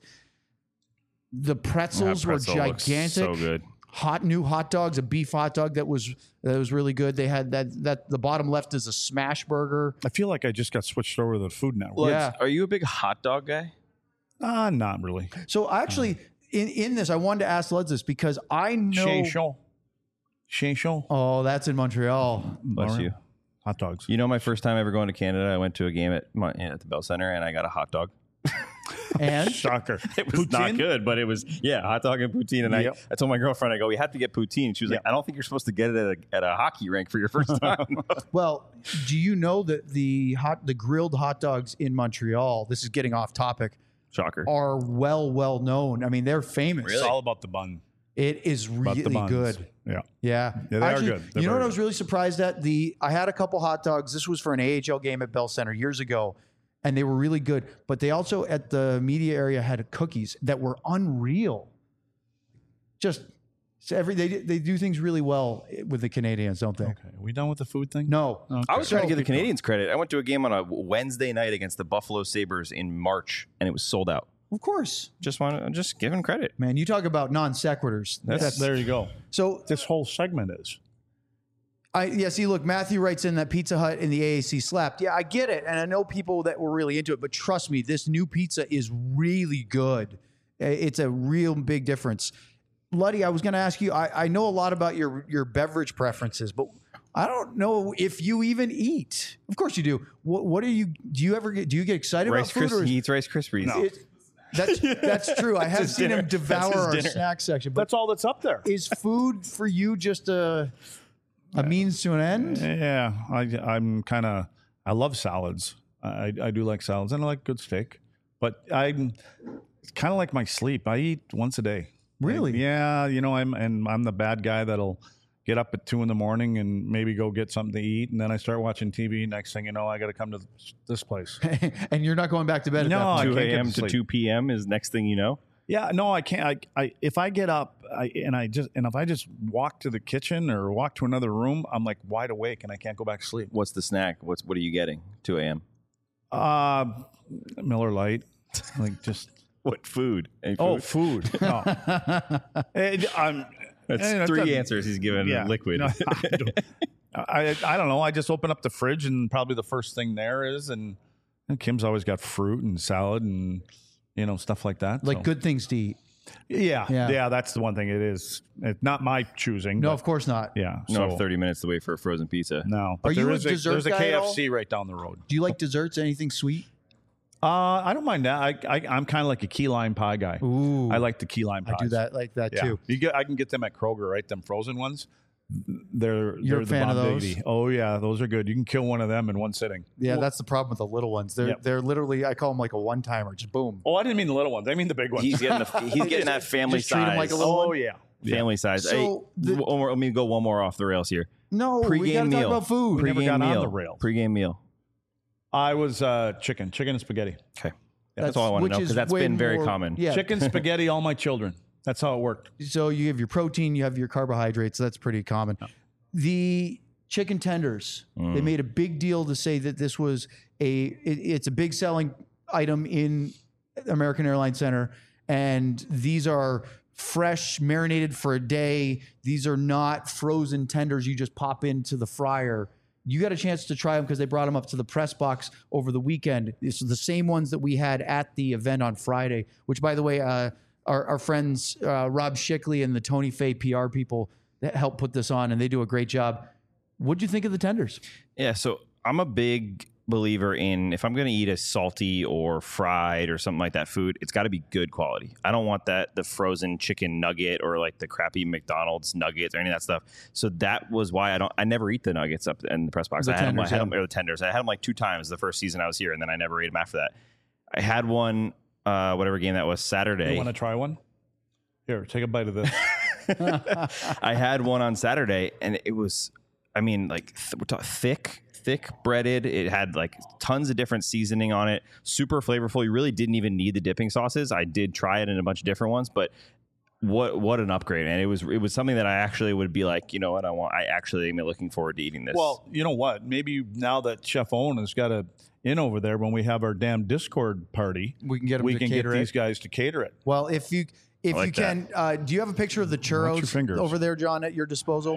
Speaker 2: The pretzels were gigantic.
Speaker 1: So good.
Speaker 2: New hot dogs, a beef hot dog that was really good. They had that the bottom left is a smash burger.
Speaker 3: I feel like I just got switched over to the Food Network.
Speaker 2: Yeah.
Speaker 1: Are you a big hot dog guy?
Speaker 3: Not really.
Speaker 2: So actually, in this, I wanted to ask Leds this because I know.
Speaker 3: Chez Show.
Speaker 2: Oh, that's in Montreal.
Speaker 1: Bless you.
Speaker 3: Hot dogs.
Speaker 1: You know, my first time ever going to Canada, I went to a game at the Bell Center, and I got a hot dog.
Speaker 2: And
Speaker 3: Shocker.
Speaker 1: It was not good, but it was, hot dog and poutine. And I told my girlfriend, I go, we have to get poutine. She was like, I don't think you're supposed to get it at a hockey rink for your first time.
Speaker 2: well, do you know that the grilled hot dogs in Montreal, this is getting off topic,
Speaker 1: Shocker.
Speaker 2: are well known. I mean, they're famous.
Speaker 3: It's all about the bun.
Speaker 2: It is really good.
Speaker 3: Yeah. They
Speaker 2: Actually,
Speaker 3: are good. They're
Speaker 2: you know what
Speaker 3: very
Speaker 2: I was really surprised at? I had a couple hot dogs. This was for an AHL game at Bell Center years ago, and they were really good. But they also, at the media area, had cookies that were unreal. They do things really well with the Canadians, don't they?
Speaker 3: Okay. Are we done with the food thing?
Speaker 2: No.
Speaker 3: Okay.
Speaker 1: I was trying to give the Canadians credit. I went to a game on a Wednesday night against the Buffalo Sabres in March, and it was sold out.
Speaker 2: Of course.
Speaker 1: Just giving credit.
Speaker 2: Man, you talk about non sequiturs.
Speaker 3: There you go.
Speaker 2: So
Speaker 3: this whole segment is.
Speaker 2: See, look, Matthew writes in that Pizza Hut in the AAC slapped. Yeah, I get it. And I know people that were really into it, but trust me, this new pizza is really good. It's a real big difference. Luddy, I was going to ask you, I know a lot about your beverage preferences, but I don't know if you even eat. Of course you do. What do you get excited about food?
Speaker 1: He eats Rice Krispies.
Speaker 3: No.
Speaker 2: That's true. I have seen him devour our snack section. But
Speaker 3: that's all that's up there.
Speaker 2: Is food for you just a means to an end?
Speaker 3: Yeah, I love salads. I do like salads, and I like good steak. But it's kind of like my sleep. I eat once a day.
Speaker 2: Really?
Speaker 3: I'm the bad guy that'll get up at 2 a.m. and maybe go get something to eat, and then I start watching TV. Next thing you know, I got to come to this place.
Speaker 2: And you're not going back to bed.
Speaker 3: No,
Speaker 2: at that
Speaker 1: 2 a.m. to 2 p.m. is next thing you know.
Speaker 3: Yeah, no, I can't. If I get up if I just walk to the kitchen or walk to another room, I'm like wide awake and I can't go back to sleep.
Speaker 1: What's the snack? What are you getting? 2 a.m.
Speaker 3: Miller Lite, like just
Speaker 1: what food? Any food?
Speaker 3: Oh, food. No.
Speaker 1: That's three answers he's given. Liquid.
Speaker 3: No, I don't know. I just open up the fridge and probably the first thing there is, and Kim's always got fruit and salad and stuff like that.
Speaker 2: Like good things to eat.
Speaker 3: Yeah. That's the one thing. It is. It's not my choosing.
Speaker 2: No, of course not.
Speaker 3: Yeah.
Speaker 1: No, 30 minutes to wait for a frozen pizza.
Speaker 3: No.
Speaker 2: Are you a dessert
Speaker 3: There's a
Speaker 2: guy at
Speaker 3: KFC
Speaker 2: all?
Speaker 3: right down the road.
Speaker 2: Do you like desserts? Anything sweet?
Speaker 3: I don't mind that. I'm kind of like a key lime pie guy.
Speaker 2: Ooh,
Speaker 3: I like the key lime pies.
Speaker 2: I do that like that too.
Speaker 3: I can get them at Kroger, right? Them frozen ones. You're
Speaker 2: a fan of those?
Speaker 3: Oh yeah, those are good. You can kill one of them in one sitting.
Speaker 2: Yeah, that's the problem with the little ones. They're literally, I call them like a one timer. Just boom.
Speaker 3: Oh, I didn't mean the little ones. I mean the big ones.
Speaker 1: He's getting that family
Speaker 2: Just treat him
Speaker 1: size.
Speaker 2: like a little
Speaker 3: Oh
Speaker 2: one?
Speaker 3: yeah.
Speaker 1: Family size.
Speaker 2: So
Speaker 1: let me go one more off the rails here.
Speaker 2: No, we got to talk about food.
Speaker 3: never
Speaker 1: Pre-game
Speaker 3: got on
Speaker 1: meal.
Speaker 3: the rails.
Speaker 1: Pre-game meal.
Speaker 3: I was chicken and spaghetti.
Speaker 1: Okay. That's all I want to know because that's been very common.
Speaker 2: Yeah.
Speaker 3: Chicken, spaghetti, all my children. That's how it worked.
Speaker 2: So you have your protein, you have your carbohydrates. That's pretty common. The chicken tenders. They made a big deal to say that this was it's a big selling item in American Airlines Center, and these are fresh, marinated for a day. These are not frozen tenders you just pop into the fryer. You got a chance to try them because they brought them up to the press box over the weekend. It's the same ones that we had at the event on Friday, which, by the way, our friends Rob Shickley and the Tony Fay PR people that helped put this on, and they do a great job. What'd you think of the tenders?
Speaker 1: Yeah, so I'm a big believer in, if I'm going to eat a salty or fried or something like that food, it's got to be good quality. I don't want the frozen chicken nugget or like the crappy McDonald's nuggets or any of that stuff. So that was why I never eat the nuggets up in the press box. I had them, or the tenders. I had them like 2 times the first season I was here, and then I never ate them after that. I had one, whatever game that was, Saturday.
Speaker 3: You want to try one? Here, take a bite of this.
Speaker 1: I had one on Saturday, and it was, I mean, like thick breaded. It had like tons of different seasoning on it, super flavorful. You really didn't even need the dipping sauces. I did try it in a bunch of different ones, but what an upgrade, man. It was something that I actually would be like, you know what, I actually am looking forward to eating this.
Speaker 3: Well, you know what? Maybe now that Chef Owen has got a in over there, when we have our damn Discord party,
Speaker 2: we can get them
Speaker 3: we
Speaker 2: to
Speaker 3: can
Speaker 2: cater
Speaker 3: get
Speaker 2: it.
Speaker 3: These guys to cater it.
Speaker 2: Well, if you can, do you have a picture of the churros over there, John, at your disposal?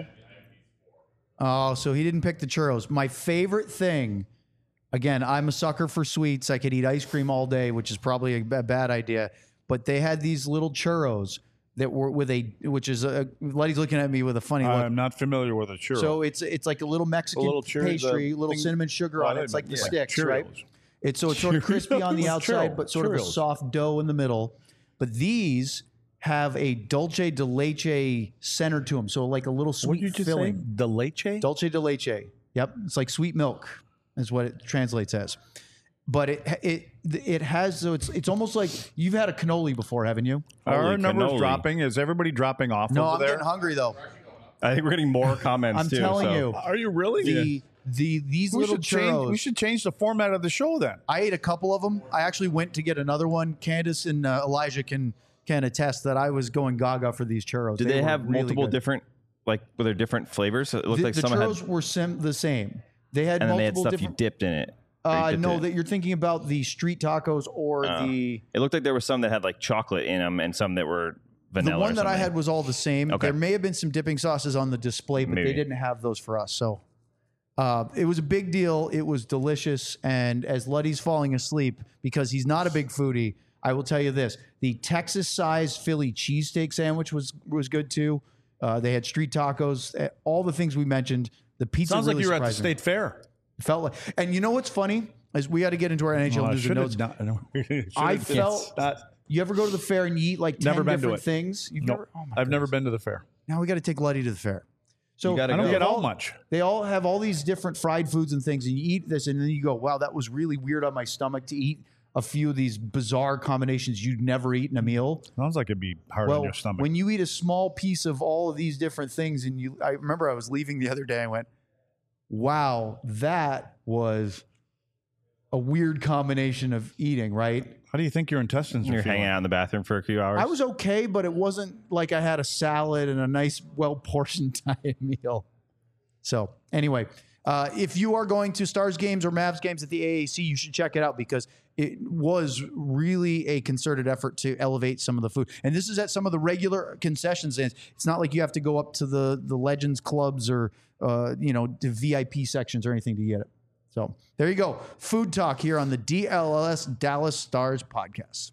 Speaker 2: Oh, so he didn't pick the churros. My favorite thing, again, I'm a sucker for sweets. I could eat ice cream all day, which is probably a bad idea. But they had these little churros that were Letty's looking at me with a funny look.
Speaker 3: I'm not familiar with a churro.
Speaker 2: So it's like a little Mexican pastry, little cinnamon sugar on it. It's like the sticks,
Speaker 3: Cheerios.
Speaker 2: right? It's sort of crispy on the outside, but sort of a soft dough in the middle. But these have a dulce de leche center to them, so like a little sweet
Speaker 3: what did you just
Speaker 2: filling.
Speaker 3: Say? De leche?
Speaker 2: Dulce de leche. Yep, it's like sweet milk, is what it translates as. But it has, so it's almost like you've had a cannoli before, haven't you?
Speaker 3: Are our numbers
Speaker 1: cannoli.
Speaker 3: Dropping? Is everybody dropping off?
Speaker 2: No,
Speaker 3: over
Speaker 2: I'm
Speaker 3: there?
Speaker 2: getting hungry though.
Speaker 1: I think we're getting more comments.
Speaker 2: I'm
Speaker 1: too,
Speaker 2: telling you.
Speaker 3: Are you really?
Speaker 2: These little churros.
Speaker 3: We should change the format of the show then.
Speaker 2: I ate a couple of them. I actually went to get another one. Candace and Elijah can attest that I was going gaga for these churros.
Speaker 1: Did they have
Speaker 2: really
Speaker 1: multiple
Speaker 2: good.
Speaker 1: different, like, were there different flavors? It looked like
Speaker 2: the
Speaker 1: some
Speaker 2: churros
Speaker 1: had,
Speaker 2: were the same. They had
Speaker 1: and then
Speaker 2: multiple
Speaker 1: they had stuff
Speaker 2: different.
Speaker 1: you dipped in it.
Speaker 2: No, that you're thinking about the street tacos or the.
Speaker 1: It looked like there was some that had like chocolate in them and some that were vanilla.
Speaker 2: The one
Speaker 1: or
Speaker 2: that I
Speaker 1: something.
Speaker 2: had was all the same.
Speaker 1: Okay.
Speaker 2: There may have been some dipping sauces on the display, but
Speaker 1: Maybe.
Speaker 2: they didn't have those for us. So it was a big deal. It was delicious. And as Luddy's falling asleep, because he's not a big foodie, I will tell you this. The Texas-sized Philly cheesesteak sandwich was good too. They had street tacos, all the things we mentioned. The pizza
Speaker 3: Sounds
Speaker 2: really
Speaker 3: like you were at the
Speaker 2: surprised me.
Speaker 3: state fair.
Speaker 2: Felt like, and you know what's funny is we got to get into our NHL news and notes. You ever go to the fair and you eat like 10 different things? You've never, oh my
Speaker 3: I've never
Speaker 2: goodness.
Speaker 3: been to the fair.
Speaker 2: Now we got to take Luddy to the fair. So
Speaker 1: gotta
Speaker 3: I don't
Speaker 1: go.
Speaker 3: get out much.
Speaker 2: They all have all these different fried foods and things, and you eat this, and then you go, "Wow, that was really weird on my stomach to eat a few of these bizarre combinations you'd never eat in a meal."
Speaker 3: Sounds like it'd be hard on your stomach.
Speaker 2: When you eat a small piece of all of these different things, and I remember I was leaving the other day, I went, "Wow, that was a weird combination of eating." Right?
Speaker 3: How do you think your intestines are
Speaker 1: You're
Speaker 3: feeling?
Speaker 1: hanging out in the bathroom for a few hours.
Speaker 2: I was okay, but it wasn't like I had a salad and a nice, well-portioned diet meal. So anyway, if you are going to Stars games or Mavs games at the AAC, you should check it out because it was really a concerted effort to elevate some of the food. And this is at some of the regular concession stands. It's not like you have to go up to the Legends clubs or the VIP sections or anything to get it. So there you go. Food talk here on the DLLS Dallas Stars podcast.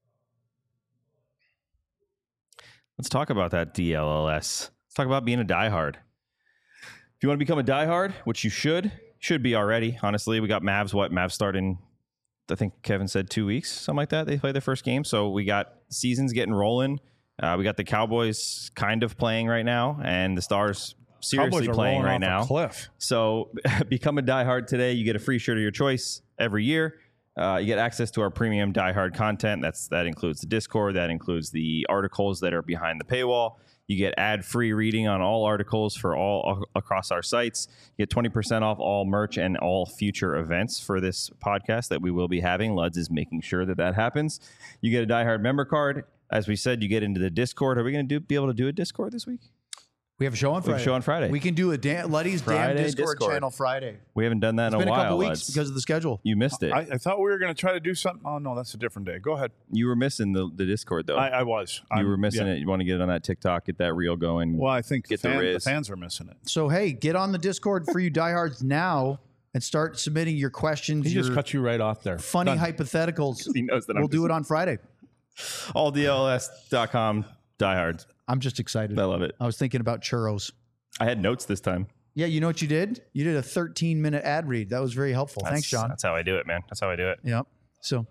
Speaker 1: Let's talk about that DLLS. Let's talk about being a diehard. If you want to become a diehard, which you should be already, honestly. We got Mavs. Mavs start in, I think Kevin said 2 weeks, something like that. They play their first game. So we got seasons getting rolling. We got the Cowboys kind of playing right now, and the Stars seriously playing right now.
Speaker 3: Cliff.
Speaker 1: So become a diehard today. You get a free shirt of your choice every year. You get access to our premium diehard content. That includes the Discord. That includes the articles that are behind the paywall. You get ad-free reading on all articles for all across our sites. You get 20% off all merch and all future events for this podcast that we will be having. Luds is making sure that happens. You get a diehard member card. As we said, you get into the Discord. Are we going to be able to do a Discord this week?
Speaker 2: We have a show on
Speaker 1: We have
Speaker 2: Friday.
Speaker 1: a show on Friday.
Speaker 2: We can do a Letty's damn
Speaker 1: Friday
Speaker 2: Discord,
Speaker 1: Discord.
Speaker 2: channel Friday.
Speaker 1: We haven't done that
Speaker 2: It's
Speaker 1: in
Speaker 2: been
Speaker 1: a
Speaker 2: a
Speaker 1: while.
Speaker 2: couple weeks
Speaker 1: Lads.
Speaker 2: because of the schedule.
Speaker 1: You missed it.
Speaker 3: I thought we were going to try to do something. Oh, no, that's a different day. Go ahead.
Speaker 1: You were missing the Discord, though.
Speaker 3: I was.
Speaker 1: You were missing it. You want to get on that TikTok, get that reel going.
Speaker 3: Well, I think
Speaker 1: Get
Speaker 3: the
Speaker 1: the Riz.
Speaker 3: fans are missing it.
Speaker 2: So, hey, get on the Discord for you diehards now and start submitting your questions,
Speaker 3: He
Speaker 2: your
Speaker 3: just cut you right off there.
Speaker 2: funny
Speaker 3: Done.
Speaker 2: hypotheticals.
Speaker 1: He knows that
Speaker 2: We'll
Speaker 1: I'm
Speaker 2: do it on Friday.
Speaker 1: alldls.com diehards.
Speaker 2: I'm just excited.
Speaker 1: I love it.
Speaker 2: I was thinking about churros.
Speaker 1: I had notes this time.
Speaker 2: Yeah, you know what you did? You did a 13-minute ad read. That was very helpful. Thanks, John.
Speaker 1: That's how I do it, man. That's how I do it.
Speaker 2: Yep. So,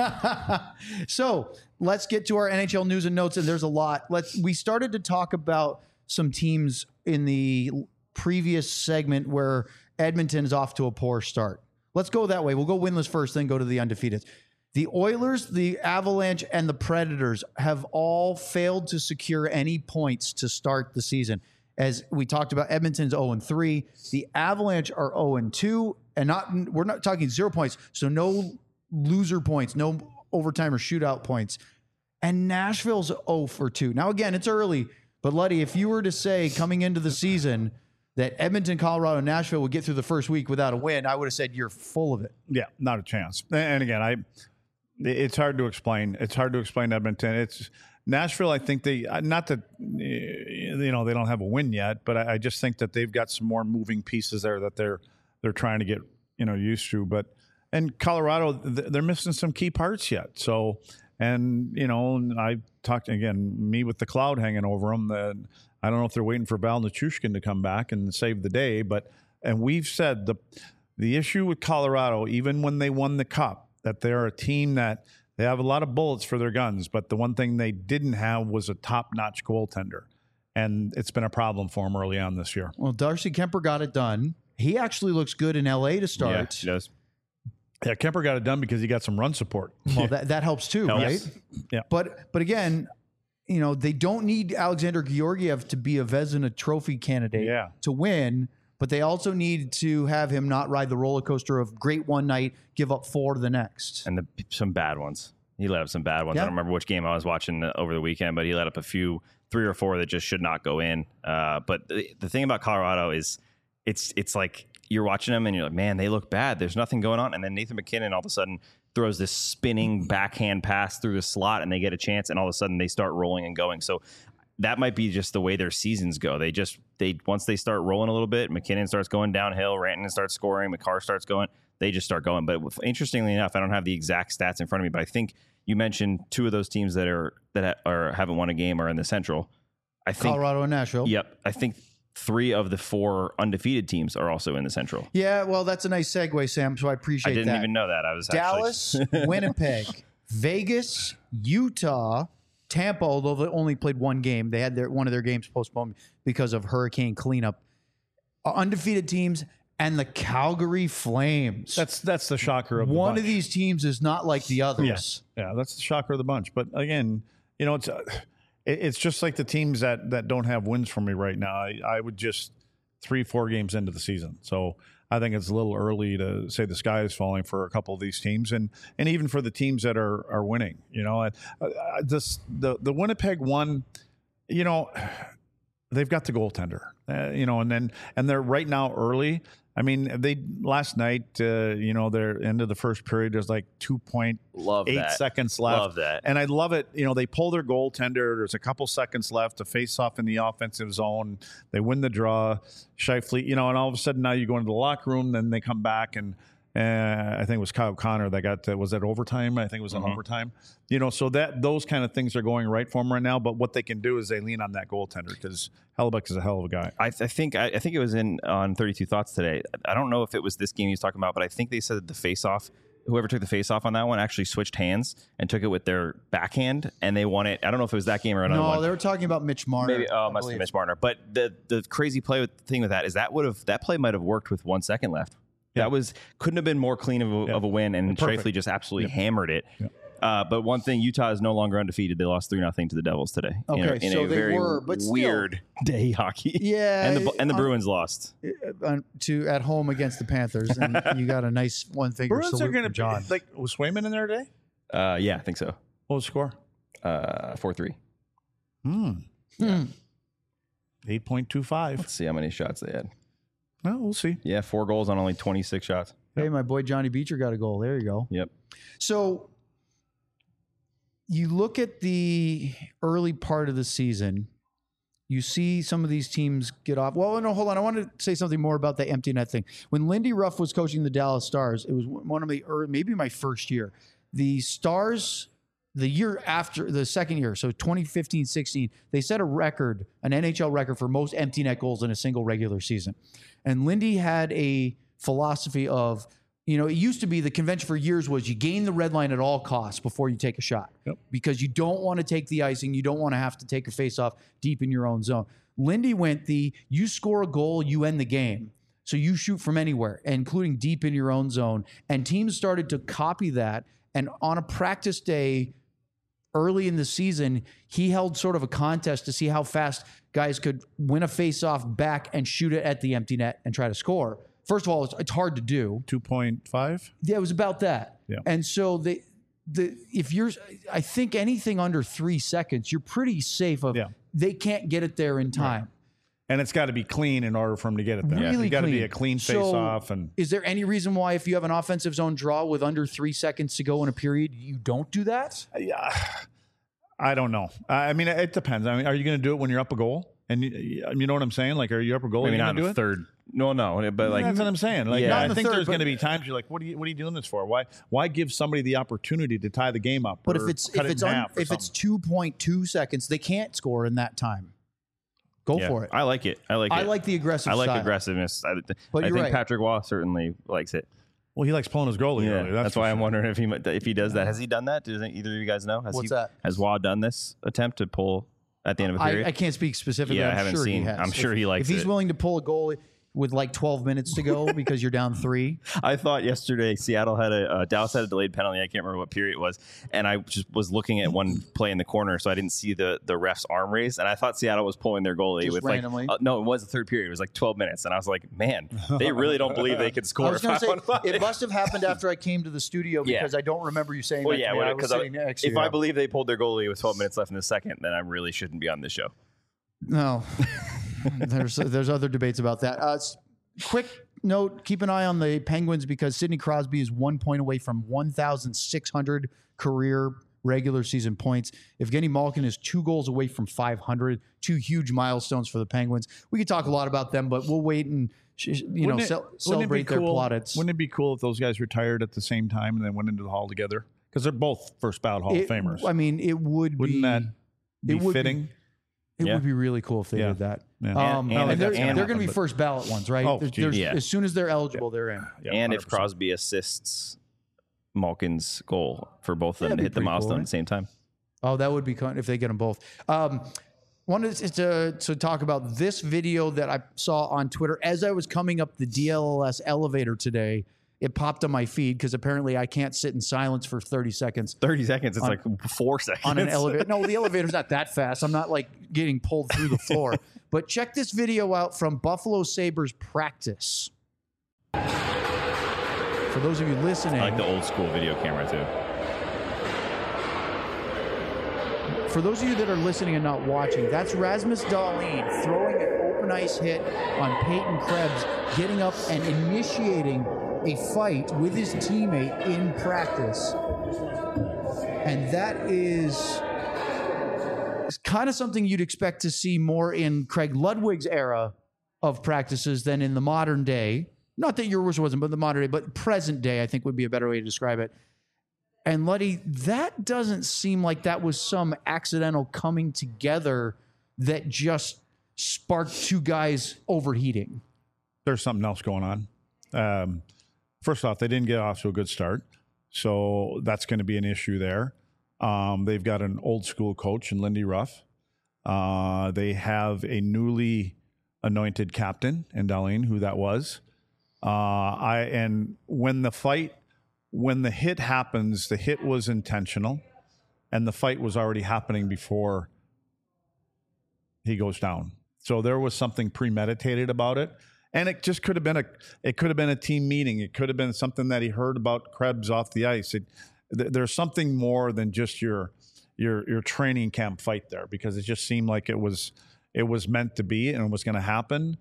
Speaker 2: so let's get to our NHL news and notes. And there's a lot. We started to talk about some teams in the previous segment where Edmonton is off to a poor start. Let's go that way. We'll go winless first, then go to the undefeated. The Oilers, the Avalanche, and the Predators have all failed to secure any points to start the season. As we talked about, Edmonton's 0-3. The Avalanche are 0-2, and we're not talking 0 points, so no loser points, no overtime or shootout points. And Nashville's 0-2. Now, again, it's early, but Luddy, if you were to say coming into the season that Edmonton, Colorado, and Nashville would get through the first week without a win, I would have said you're full of it.
Speaker 3: Yeah, not a chance. And again, it's hard to explain. It's hard to explain Edmonton. It's Nashville. I think not that they don't have a win yet, but I just think that they've got some more moving pieces there that they're trying to get used to. And Colorado, they're missing some key parts yet. So, and I talked again, me with the cloud hanging over them. That I don't know if they're waiting for Val Nichushkin to come back and save the day, and we've said the issue with Colorado, even when they won the Cup, that they're a team that they have a lot of bullets for their guns, but the one thing they didn't have was a top-notch goaltender, and it's been a problem for them early on this year.
Speaker 2: Well, Darcy Kemper got it done. He actually looks good in LA to start.
Speaker 1: Yeah, he does.
Speaker 3: Yeah, Kemper got it done because he got some run support.
Speaker 2: Well, that helps too,
Speaker 1: Helps.
Speaker 2: right?
Speaker 3: Yeah.
Speaker 2: But again, they don't need Alexander Georgiev to be a Vezina Trophy candidate to win, but they also need to have him not ride the roller coaster of great one night, give up 4 the next.
Speaker 1: And some bad ones. He let up some bad ones.
Speaker 2: Yeah.
Speaker 1: I don't remember which game I was watching over the weekend, but he let up a few, 3 or 4 that just should not go in. But the thing about Colorado is it's like you're watching them and you're like, man, they look bad. There's nothing going on. And then Nathan McKinnon all of a sudden throws this spinning backhand pass through the slot and they get a chance and all of a sudden they start rolling and going. So that might be just the way their seasons go. They once they start rolling a little bit, McKinnon starts going downhill, Rantanen starts scoring, McCarr starts going, they just start going. But interestingly enough, I don't have the exact stats in front of me, but I think you mentioned 2 of those teams that haven't won a game are in the Central. I think
Speaker 2: Colorado and Nashville.
Speaker 1: Yep. I think 3 of the 4 undefeated teams are also in the Central.
Speaker 2: Yeah, well, that's a nice segue, Sam, so I appreciate that.
Speaker 1: I didn't even know that. I was
Speaker 2: Dallas, Winnipeg, Vegas, Utah, Tampa, although they only played 1 game. They had one of their games postponed because of hurricane cleanup. Undefeated teams and the Calgary Flames.
Speaker 3: That's the shocker of the
Speaker 2: one
Speaker 3: bunch.
Speaker 2: of these teams is not like the others.
Speaker 3: Yes. Yeah, that's the shocker of the bunch. But again, it's just like the teams that don't have wins for me right now. I would just 3-4 games into the season. So I think it's a little early to say the sky is falling for a couple of these teams, and even for the teams that are winning. The Winnipeg one, they've got the goaltender, and they're right now early. I mean, they last night, their end of the first period, there's like 2.8 seconds left.
Speaker 1: Love that.
Speaker 3: And I love it. They pull their goaltender. There's a couple seconds left to face off in the offensive zone. They win the draw. Scheifele, and all of a sudden now you go into the locker room, then they come back and I think it was Kyle Connor that got, was that overtime? I think it was an overtime. So those kind of things are going right for them right now. But what they can do is they lean on that goaltender because Hellebuyck is a hell of a guy.
Speaker 1: I think it was on 32 Thoughts today. I don't know if it was this game he was talking about, but I think they said the face-off, whoever took the face-off on that one actually switched hands and took it with their backhand, and they won it. I don't know if it was that game or another one.
Speaker 2: No, they were talking about Mitch Marner.
Speaker 1: Maybe, must be Mitch Marner. But the crazy thing with that is that play might have worked with 1 second left.
Speaker 3: Yeah.
Speaker 1: That couldn't have been more clean of a win, and Scheifele just absolutely hammered it. Yeah. But one thing, Utah is no longer undefeated. They lost 3-0 to the Devils today.
Speaker 2: Okay,
Speaker 1: in
Speaker 2: so
Speaker 1: a
Speaker 2: they
Speaker 1: very
Speaker 2: were, but
Speaker 1: weird day hockey.
Speaker 2: Yeah,
Speaker 1: and the Bruins lost
Speaker 2: at home against the Panthers, and you got a nice one-finger
Speaker 3: Bruins are
Speaker 2: salute
Speaker 3: going
Speaker 2: from
Speaker 3: to
Speaker 2: John.
Speaker 3: was Swayman in there today?
Speaker 1: Yeah, I think so.
Speaker 3: What was the score?
Speaker 1: 4-3.
Speaker 3: 8.25.
Speaker 1: Let's see how many shots they had.
Speaker 3: Well, we'll see.
Speaker 1: Yeah, 4 goals on only 26 shots.
Speaker 2: Hey, my boy Johnny Beecher got a goal. There you go.
Speaker 1: Yep.
Speaker 2: So you look at the early part of the season, you see some of these teams get off. Well, no, hold on. I want to say something more about the empty net thing. When Lindy Ruff was coaching the Dallas Stars, it was one of the maybe my first year. The Stars, the year after the second year, so 2015-16, they set a record, an NHL record for most empty net goals in a single regular season. And Lindy had a philosophy of, it used to be the convention for years was you gain the red line at all costs before you take a shot.
Speaker 3: Yep.
Speaker 2: Because you don't want to take the icing. You don't want to have to take a face-off deep in your own zone. Lindy went you score a goal, you end the game. So you shoot from anywhere, including deep in your own zone. And teams started to copy that. And on a practice day early in the season, he held sort of a contest to see how fast guys could win a face-off back and shoot it at the empty net and try to score. First of all, it's hard to do.
Speaker 3: 2.5?
Speaker 2: Yeah, it was about that.
Speaker 3: Yeah.
Speaker 2: And so I think anything under 3 seconds, you're pretty safe of they can't get it there in time.
Speaker 3: Right. And it's got to be clean in order for them to get it there.
Speaker 2: Really
Speaker 3: It's got to
Speaker 2: clean.
Speaker 3: be a clean face-off. And
Speaker 2: is there any reason why if you have an offensive zone draw with under 3 seconds to go in a period, you don't do that?
Speaker 3: Yeah, I don't know. I mean, it depends. I mean, are you going to do it when you're up a goal? And you know what I'm saying? Like, are you up a goal?
Speaker 1: Maybe not
Speaker 3: do
Speaker 1: in the
Speaker 3: it?
Speaker 1: third. No, but like
Speaker 3: that's what I'm saying. Like,
Speaker 1: Yeah.
Speaker 3: I think there's going to be times you're like, what are you doing this for? Why give somebody the opportunity to tie the game up?
Speaker 2: But
Speaker 3: or
Speaker 2: if it's
Speaker 3: cut it in half or
Speaker 2: if it's
Speaker 3: something?
Speaker 2: 2.2 seconds, they can't score in that time. Go for it.
Speaker 1: I like it. I like
Speaker 2: the aggressive
Speaker 1: I like
Speaker 2: style.
Speaker 1: aggressiveness. I
Speaker 2: But you're
Speaker 1: think
Speaker 2: right.
Speaker 1: Patrick Waugh certainly likes it.
Speaker 3: Well, he likes pulling his goalie.
Speaker 1: Yeah,
Speaker 3: earlier,
Speaker 1: that's
Speaker 3: for
Speaker 1: why I'm
Speaker 3: sure.
Speaker 1: wondering if he does that. Has he done that? Does either of you guys know?
Speaker 2: What's that?
Speaker 1: Has Waugh done this attempt to pull at the end of a period?
Speaker 2: I can't speak specifically.
Speaker 1: Yeah, I
Speaker 2: I'm
Speaker 1: haven't
Speaker 2: sure
Speaker 1: seen.
Speaker 2: He has.
Speaker 1: I'm sure he likes
Speaker 2: If he's
Speaker 1: it.
Speaker 2: willing to pull a goal with like 12 minutes to go because you're down 3.
Speaker 1: I thought yesterday Seattle had Dallas had a delayed penalty. I can't remember what period it was, and I just was looking at one play in the corner, so I didn't see the ref's arm raised, and I thought Seattle was pulling their goalie
Speaker 2: Just
Speaker 1: with
Speaker 2: randomly?
Speaker 1: no, it was the third period. It was like 12 minutes, and I was like, man, they really don't believe they could
Speaker 2: I
Speaker 1: score.
Speaker 2: was going to say,
Speaker 1: 5-on-5.
Speaker 2: it must have happened after I came to the studio
Speaker 1: Yeah.
Speaker 2: because I don't remember you saying
Speaker 1: Well,
Speaker 2: that
Speaker 1: yeah,
Speaker 2: to me. I was
Speaker 1: because
Speaker 2: sitting next to
Speaker 1: if
Speaker 2: you.
Speaker 1: I believe they pulled their goalie with 12 minutes left in the second, then I really shouldn't be on this show.
Speaker 2: No. There's other debates about that. Quick note, keep an eye on the Penguins because Sidney Crosby is 1 point away from 1,600 career regular season points. Evgeny Malkin is 2 goals away from 500, 2 huge milestones for the Penguins. We could talk a lot about them, but we'll wait and celebrate their plaudits.
Speaker 3: Wouldn't it be cool if those guys retired at the same time and then went into the Hall together? Because they're both first ballot Hall of Famers.
Speaker 2: I mean, it would
Speaker 3: Wouldn't
Speaker 2: be.
Speaker 3: that be
Speaker 2: it would
Speaker 3: fitting?
Speaker 2: It
Speaker 1: Yeah.
Speaker 2: would be really cool if they
Speaker 3: Yeah.
Speaker 2: did that.
Speaker 3: Yeah.
Speaker 2: And
Speaker 1: And
Speaker 2: they're
Speaker 1: that's gonna
Speaker 2: going to be
Speaker 3: happen,
Speaker 2: first ballot ones, right?
Speaker 3: Oh,
Speaker 2: There's-
Speaker 3: geez.
Speaker 1: Yeah.
Speaker 2: As soon as they're eligible, they're in.
Speaker 3: Yeah,
Speaker 1: And if
Speaker 3: 100%.
Speaker 1: Crosby assists Malkin's goal for both of them
Speaker 2: That'd
Speaker 1: to
Speaker 2: be
Speaker 1: hit the
Speaker 2: pretty cool,
Speaker 1: milestone
Speaker 2: right?
Speaker 1: at the same time.
Speaker 2: Oh, that would be fun if they get them both. Wanted to talk about this video that I saw on Twitter as I was coming up the DLLS elevator today. It popped on my feed because apparently I can't sit in silence for 30 seconds
Speaker 1: 30 seconds. It's like 4 seconds.
Speaker 2: on an elevator. No, the elevator's not that fast. I'm not like getting pulled through the floor. But check this video out from Buffalo Sabres practice. For those of you listening,
Speaker 1: I like the old school video camera too.
Speaker 2: for those of you that are listening and not watching, that's Rasmus Dahlin throwing an open ice hit on Peyton Krebs, getting up and initiating a fight with his teammate in practice. And that is kind of something you'd expect to see more in Craig Ludwig's era of practices than in the modern day. Not that yours wasn't, but the modern day, but present day, I think would be a better way to describe it. And Luddy, that doesn't seem like that was some accidental coming together that just sparked 2 guys overheating.
Speaker 3: There's something else going on. First off, they didn't get off to a good start, so that's going to be an issue there. They've got an old school coach in Lindy Ruff. They have a newly anointed captain in Dahlin, who that was. And when the hit happens, the hit was intentional, and the fight was already happening before he goes down. So there was something premeditated about it. And it just could have been a team meeting. It could have been something that he heard about Krebs off the ice. There's something more than just your training camp fight there, because it just seemed like it was it was meant to be and it was going to happen.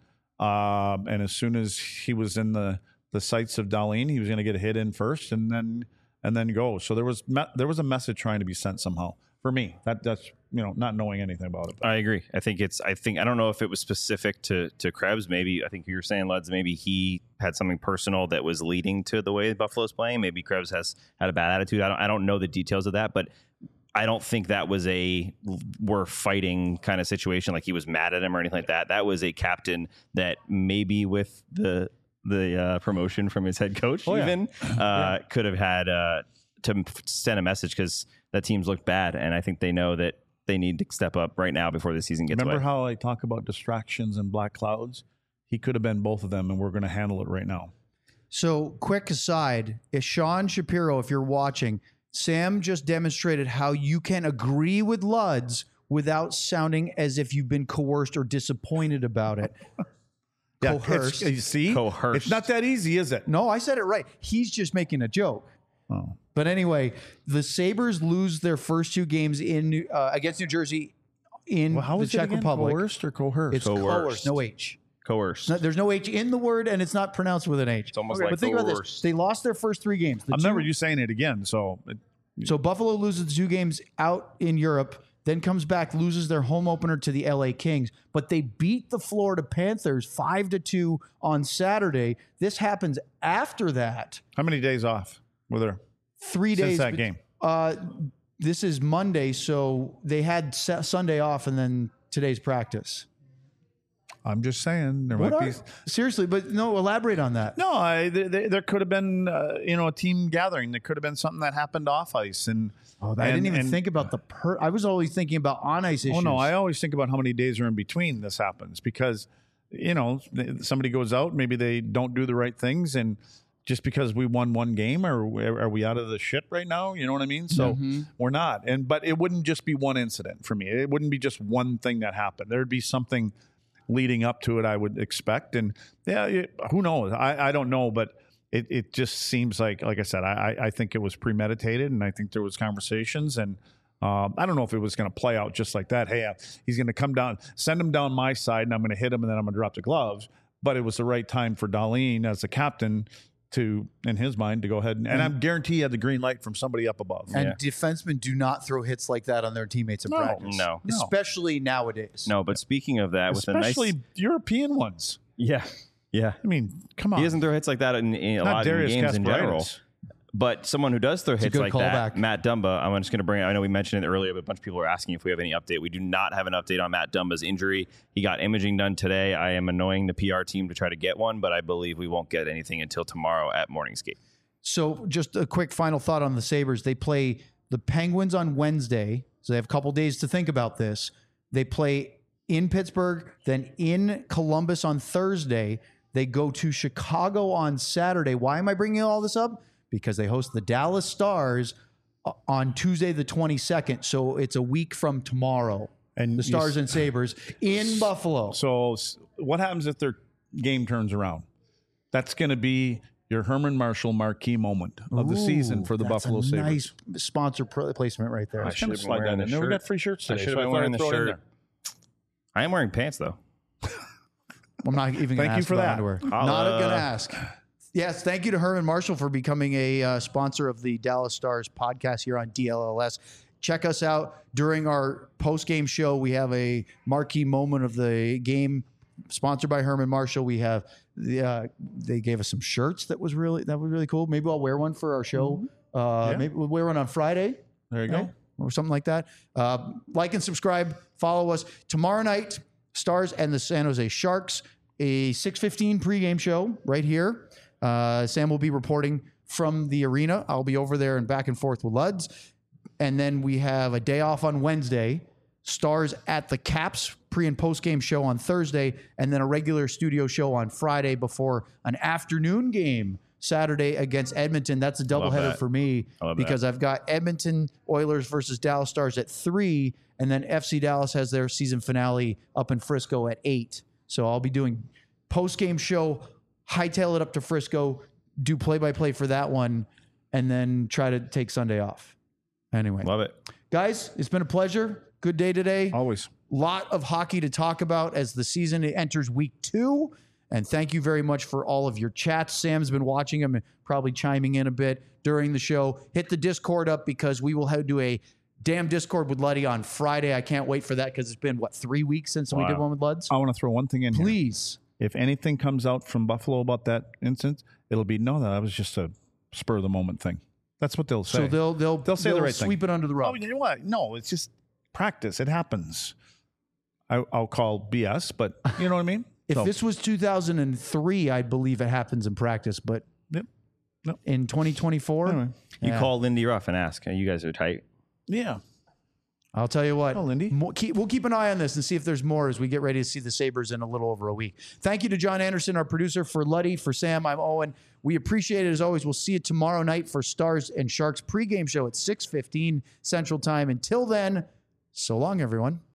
Speaker 3: And as soon as he was in the sights of Dahlin, he was going to get a hit in first and then go. So there was a message trying to be sent somehow for me. That's not knowing anything about it.
Speaker 1: I agree. I don't know if it was specific to Krebs. Maybe I think you were saying, Luds, maybe he had something personal that was leading to the way Buffalo's playing. Maybe Krebs has had a bad attitude. I don't know the details of that, but I don't think that was a we're fighting kind of situation, like he was mad at him or anything like that. That was a captain that maybe with the promotion from his head coach could have had to send a message, because that team's looked bad, and I think they know that they need to step up right now before the season gets
Speaker 3: Remember
Speaker 1: away.
Speaker 3: how I talk about distractions and black clouds? He could have been both of them, and we're going to handle it right now.
Speaker 2: So, quick aside, is Sean Shapiro, if you're watching, Sam just demonstrated how you can agree with Luds without sounding as if you've been coerced or disappointed about it. Coerced.
Speaker 3: You see?
Speaker 1: Coerced.
Speaker 3: It's not that easy, is it?
Speaker 2: No, I said it right. He's just making a joke.
Speaker 3: Oh.
Speaker 2: But anyway, the Sabres lose their first 2 games in against New Jersey in
Speaker 3: Well, how
Speaker 2: the
Speaker 3: is it
Speaker 2: Czech
Speaker 3: again?
Speaker 2: Republic.
Speaker 3: Coerced or coerced?
Speaker 2: It's coerced, no H.
Speaker 1: Coerced.
Speaker 2: There's no H in the word, and it's not pronounced with an H.
Speaker 1: It's almost like
Speaker 2: But think about this.
Speaker 1: coerced.
Speaker 2: They lost their first 3 games.
Speaker 3: I remember you saying it again. So
Speaker 2: Buffalo loses the 2 games out in Europe, then comes back, loses their home opener to the LA Kings, but they beat the Florida Panthers 5-2 on Saturday. This happens after that.
Speaker 3: how many days off were there
Speaker 2: 3
Speaker 3: since
Speaker 2: days.
Speaker 3: that game?
Speaker 2: This is Monday, so they had Sunday off and then today's practice.
Speaker 3: I'm just saying there might be.
Speaker 2: Seriously, but no, elaborate on that.
Speaker 3: No, there could have been a team gathering. There could have been something that happened off ice, and
Speaker 2: I didn't even think about I was always thinking about on ice issues.
Speaker 3: Oh no, I always think about how many days are in between this happens, because somebody goes out, maybe they don't do the right things, and just because we won 1 game, are we out of the shit right now? You know what I mean? So we're not. But it wouldn't just be one incident for me. It wouldn't be just one thing that happened. There'd be something leading up to it, I would expect. And who knows? I don't know, but it just seems like I said, I think it was premeditated, and I think there was conversations, and I don't know if it was going to play out just like that. Hey, he's going to come down, send him down my side, and I'm going to hit him, and then I'm going to drop the gloves. But it was the right time for Dahlin as the captain to, in his mind, to go ahead and I'm guarantee he had the green light from somebody up above.
Speaker 2: And defensemen do not throw hits like that on their teammates in practice.
Speaker 1: No.
Speaker 2: Especially nowadays.
Speaker 1: No, but speaking of that,
Speaker 3: Especially
Speaker 1: with a nice,
Speaker 3: European ones.
Speaker 1: yeah.
Speaker 3: I mean, come on.
Speaker 1: He doesn't throw hits like that in a
Speaker 3: Not
Speaker 1: lot of
Speaker 3: Darius
Speaker 1: games in general.
Speaker 3: Kasparaitis.
Speaker 1: But someone who does throw hits
Speaker 2: good
Speaker 1: like
Speaker 2: callback.
Speaker 1: that, Matt Dumba, I'm just going to bring it. I know we mentioned it earlier, but a bunch of people are asking if we have any update. We do not have an update on Matt Dumba's injury. He got imaging done today. I am annoying the PR team to try to get one, but I believe we won't get anything until tomorrow at morning skate.
Speaker 2: So just a quick final thought on the Sabres. They play the Penguins on Wednesday, so they have a couple days to think about this. They play in Pittsburgh, then in Columbus on Thursday. They go to Chicago on Saturday. Why am I bringing all this up? Because they host the Dallas Stars on Tuesday the 22nd. So it's a week from tomorrow.
Speaker 3: And
Speaker 2: the Stars and Sabres in Buffalo.
Speaker 3: So what happens if their game turns around? That's going to be your Herman Marshall marquee moment of the season for the Buffalo Sabres.
Speaker 2: Nice sponsor placement right there.
Speaker 3: I should have slide that in there. We got free shirts today.
Speaker 1: I should have been wearing the shirt. I am wearing pants, though.
Speaker 2: I'm not even going to ask
Speaker 3: you for
Speaker 2: about
Speaker 3: that.
Speaker 2: underwear. Not going to ask. Yes, thank you to Herman Marshall for becoming a sponsor of the Dallas Stars podcast here on DLLS. Check us out during our post-game show. We have a marquee moment of the game sponsored by Herman Marshall. We have they gave us some shirts that was really cool. Maybe I'll wear one for our show. Maybe we'll wear one on Friday.
Speaker 3: There you go.
Speaker 2: Or something like that. Like and subscribe. Follow us. Tomorrow night, Stars and the San Jose Sharks, a 6:15 pregame show right here. Sam will be reporting from the arena. I'll be over there and back and forth with Luds. And then we have a day off on Wednesday. Stars at the Caps pre- and post-game show on Thursday. And then a regular studio show on Friday before an afternoon game Saturday against Edmonton. That's a doubleheader for me because I've got Edmonton Oilers versus Dallas Stars at 3. And then FC Dallas has their season finale up in Frisco at 8. So I'll be doing post-game show, hightail it up to Frisco, do play-by-play for that one, and then try to take Sunday off. Anyway.
Speaker 1: Love it.
Speaker 2: Guys, it's been a pleasure. Good day today.
Speaker 3: Always.
Speaker 2: Lot of hockey to talk about as the season enters week 2. And thank you very much for all of your chats. Sam's been watching them and probably chiming in a bit during the show. Hit the Discord up because we will do a damn Discord with Luddy on Friday. I can't wait for that because it's been, 3 weeks since we did one with Luds?
Speaker 3: I want to throw one thing in here.
Speaker 2: Please.
Speaker 3: If anything comes out from Buffalo about that incident, it'll be, no, that was just a spur of the moment thing. That's what they'll say.
Speaker 2: So they'll say the right thing. Sweep it under the rug.
Speaker 3: Oh, you know what? No, it's just practice. It happens. I'll call BS, but you know what I mean?
Speaker 2: If this was 2003, I believe it happens in practice, but in 2024,
Speaker 3: anyway.
Speaker 1: You call Lindy Ruff and ask. You guys are tight.
Speaker 3: Yeah.
Speaker 2: I'll tell you what.
Speaker 3: Oh, Lindy.
Speaker 2: We'll keep an eye on this and see if there's more as we get ready to see the Sabres in a little over a week. Thank you to John Anderson, our producer. For Luddy, for Sam, I'm Owen. We appreciate it as always. We'll see you tomorrow night for Stars and Sharks pregame show at 6:15 Central Time. Until then, so long, everyone.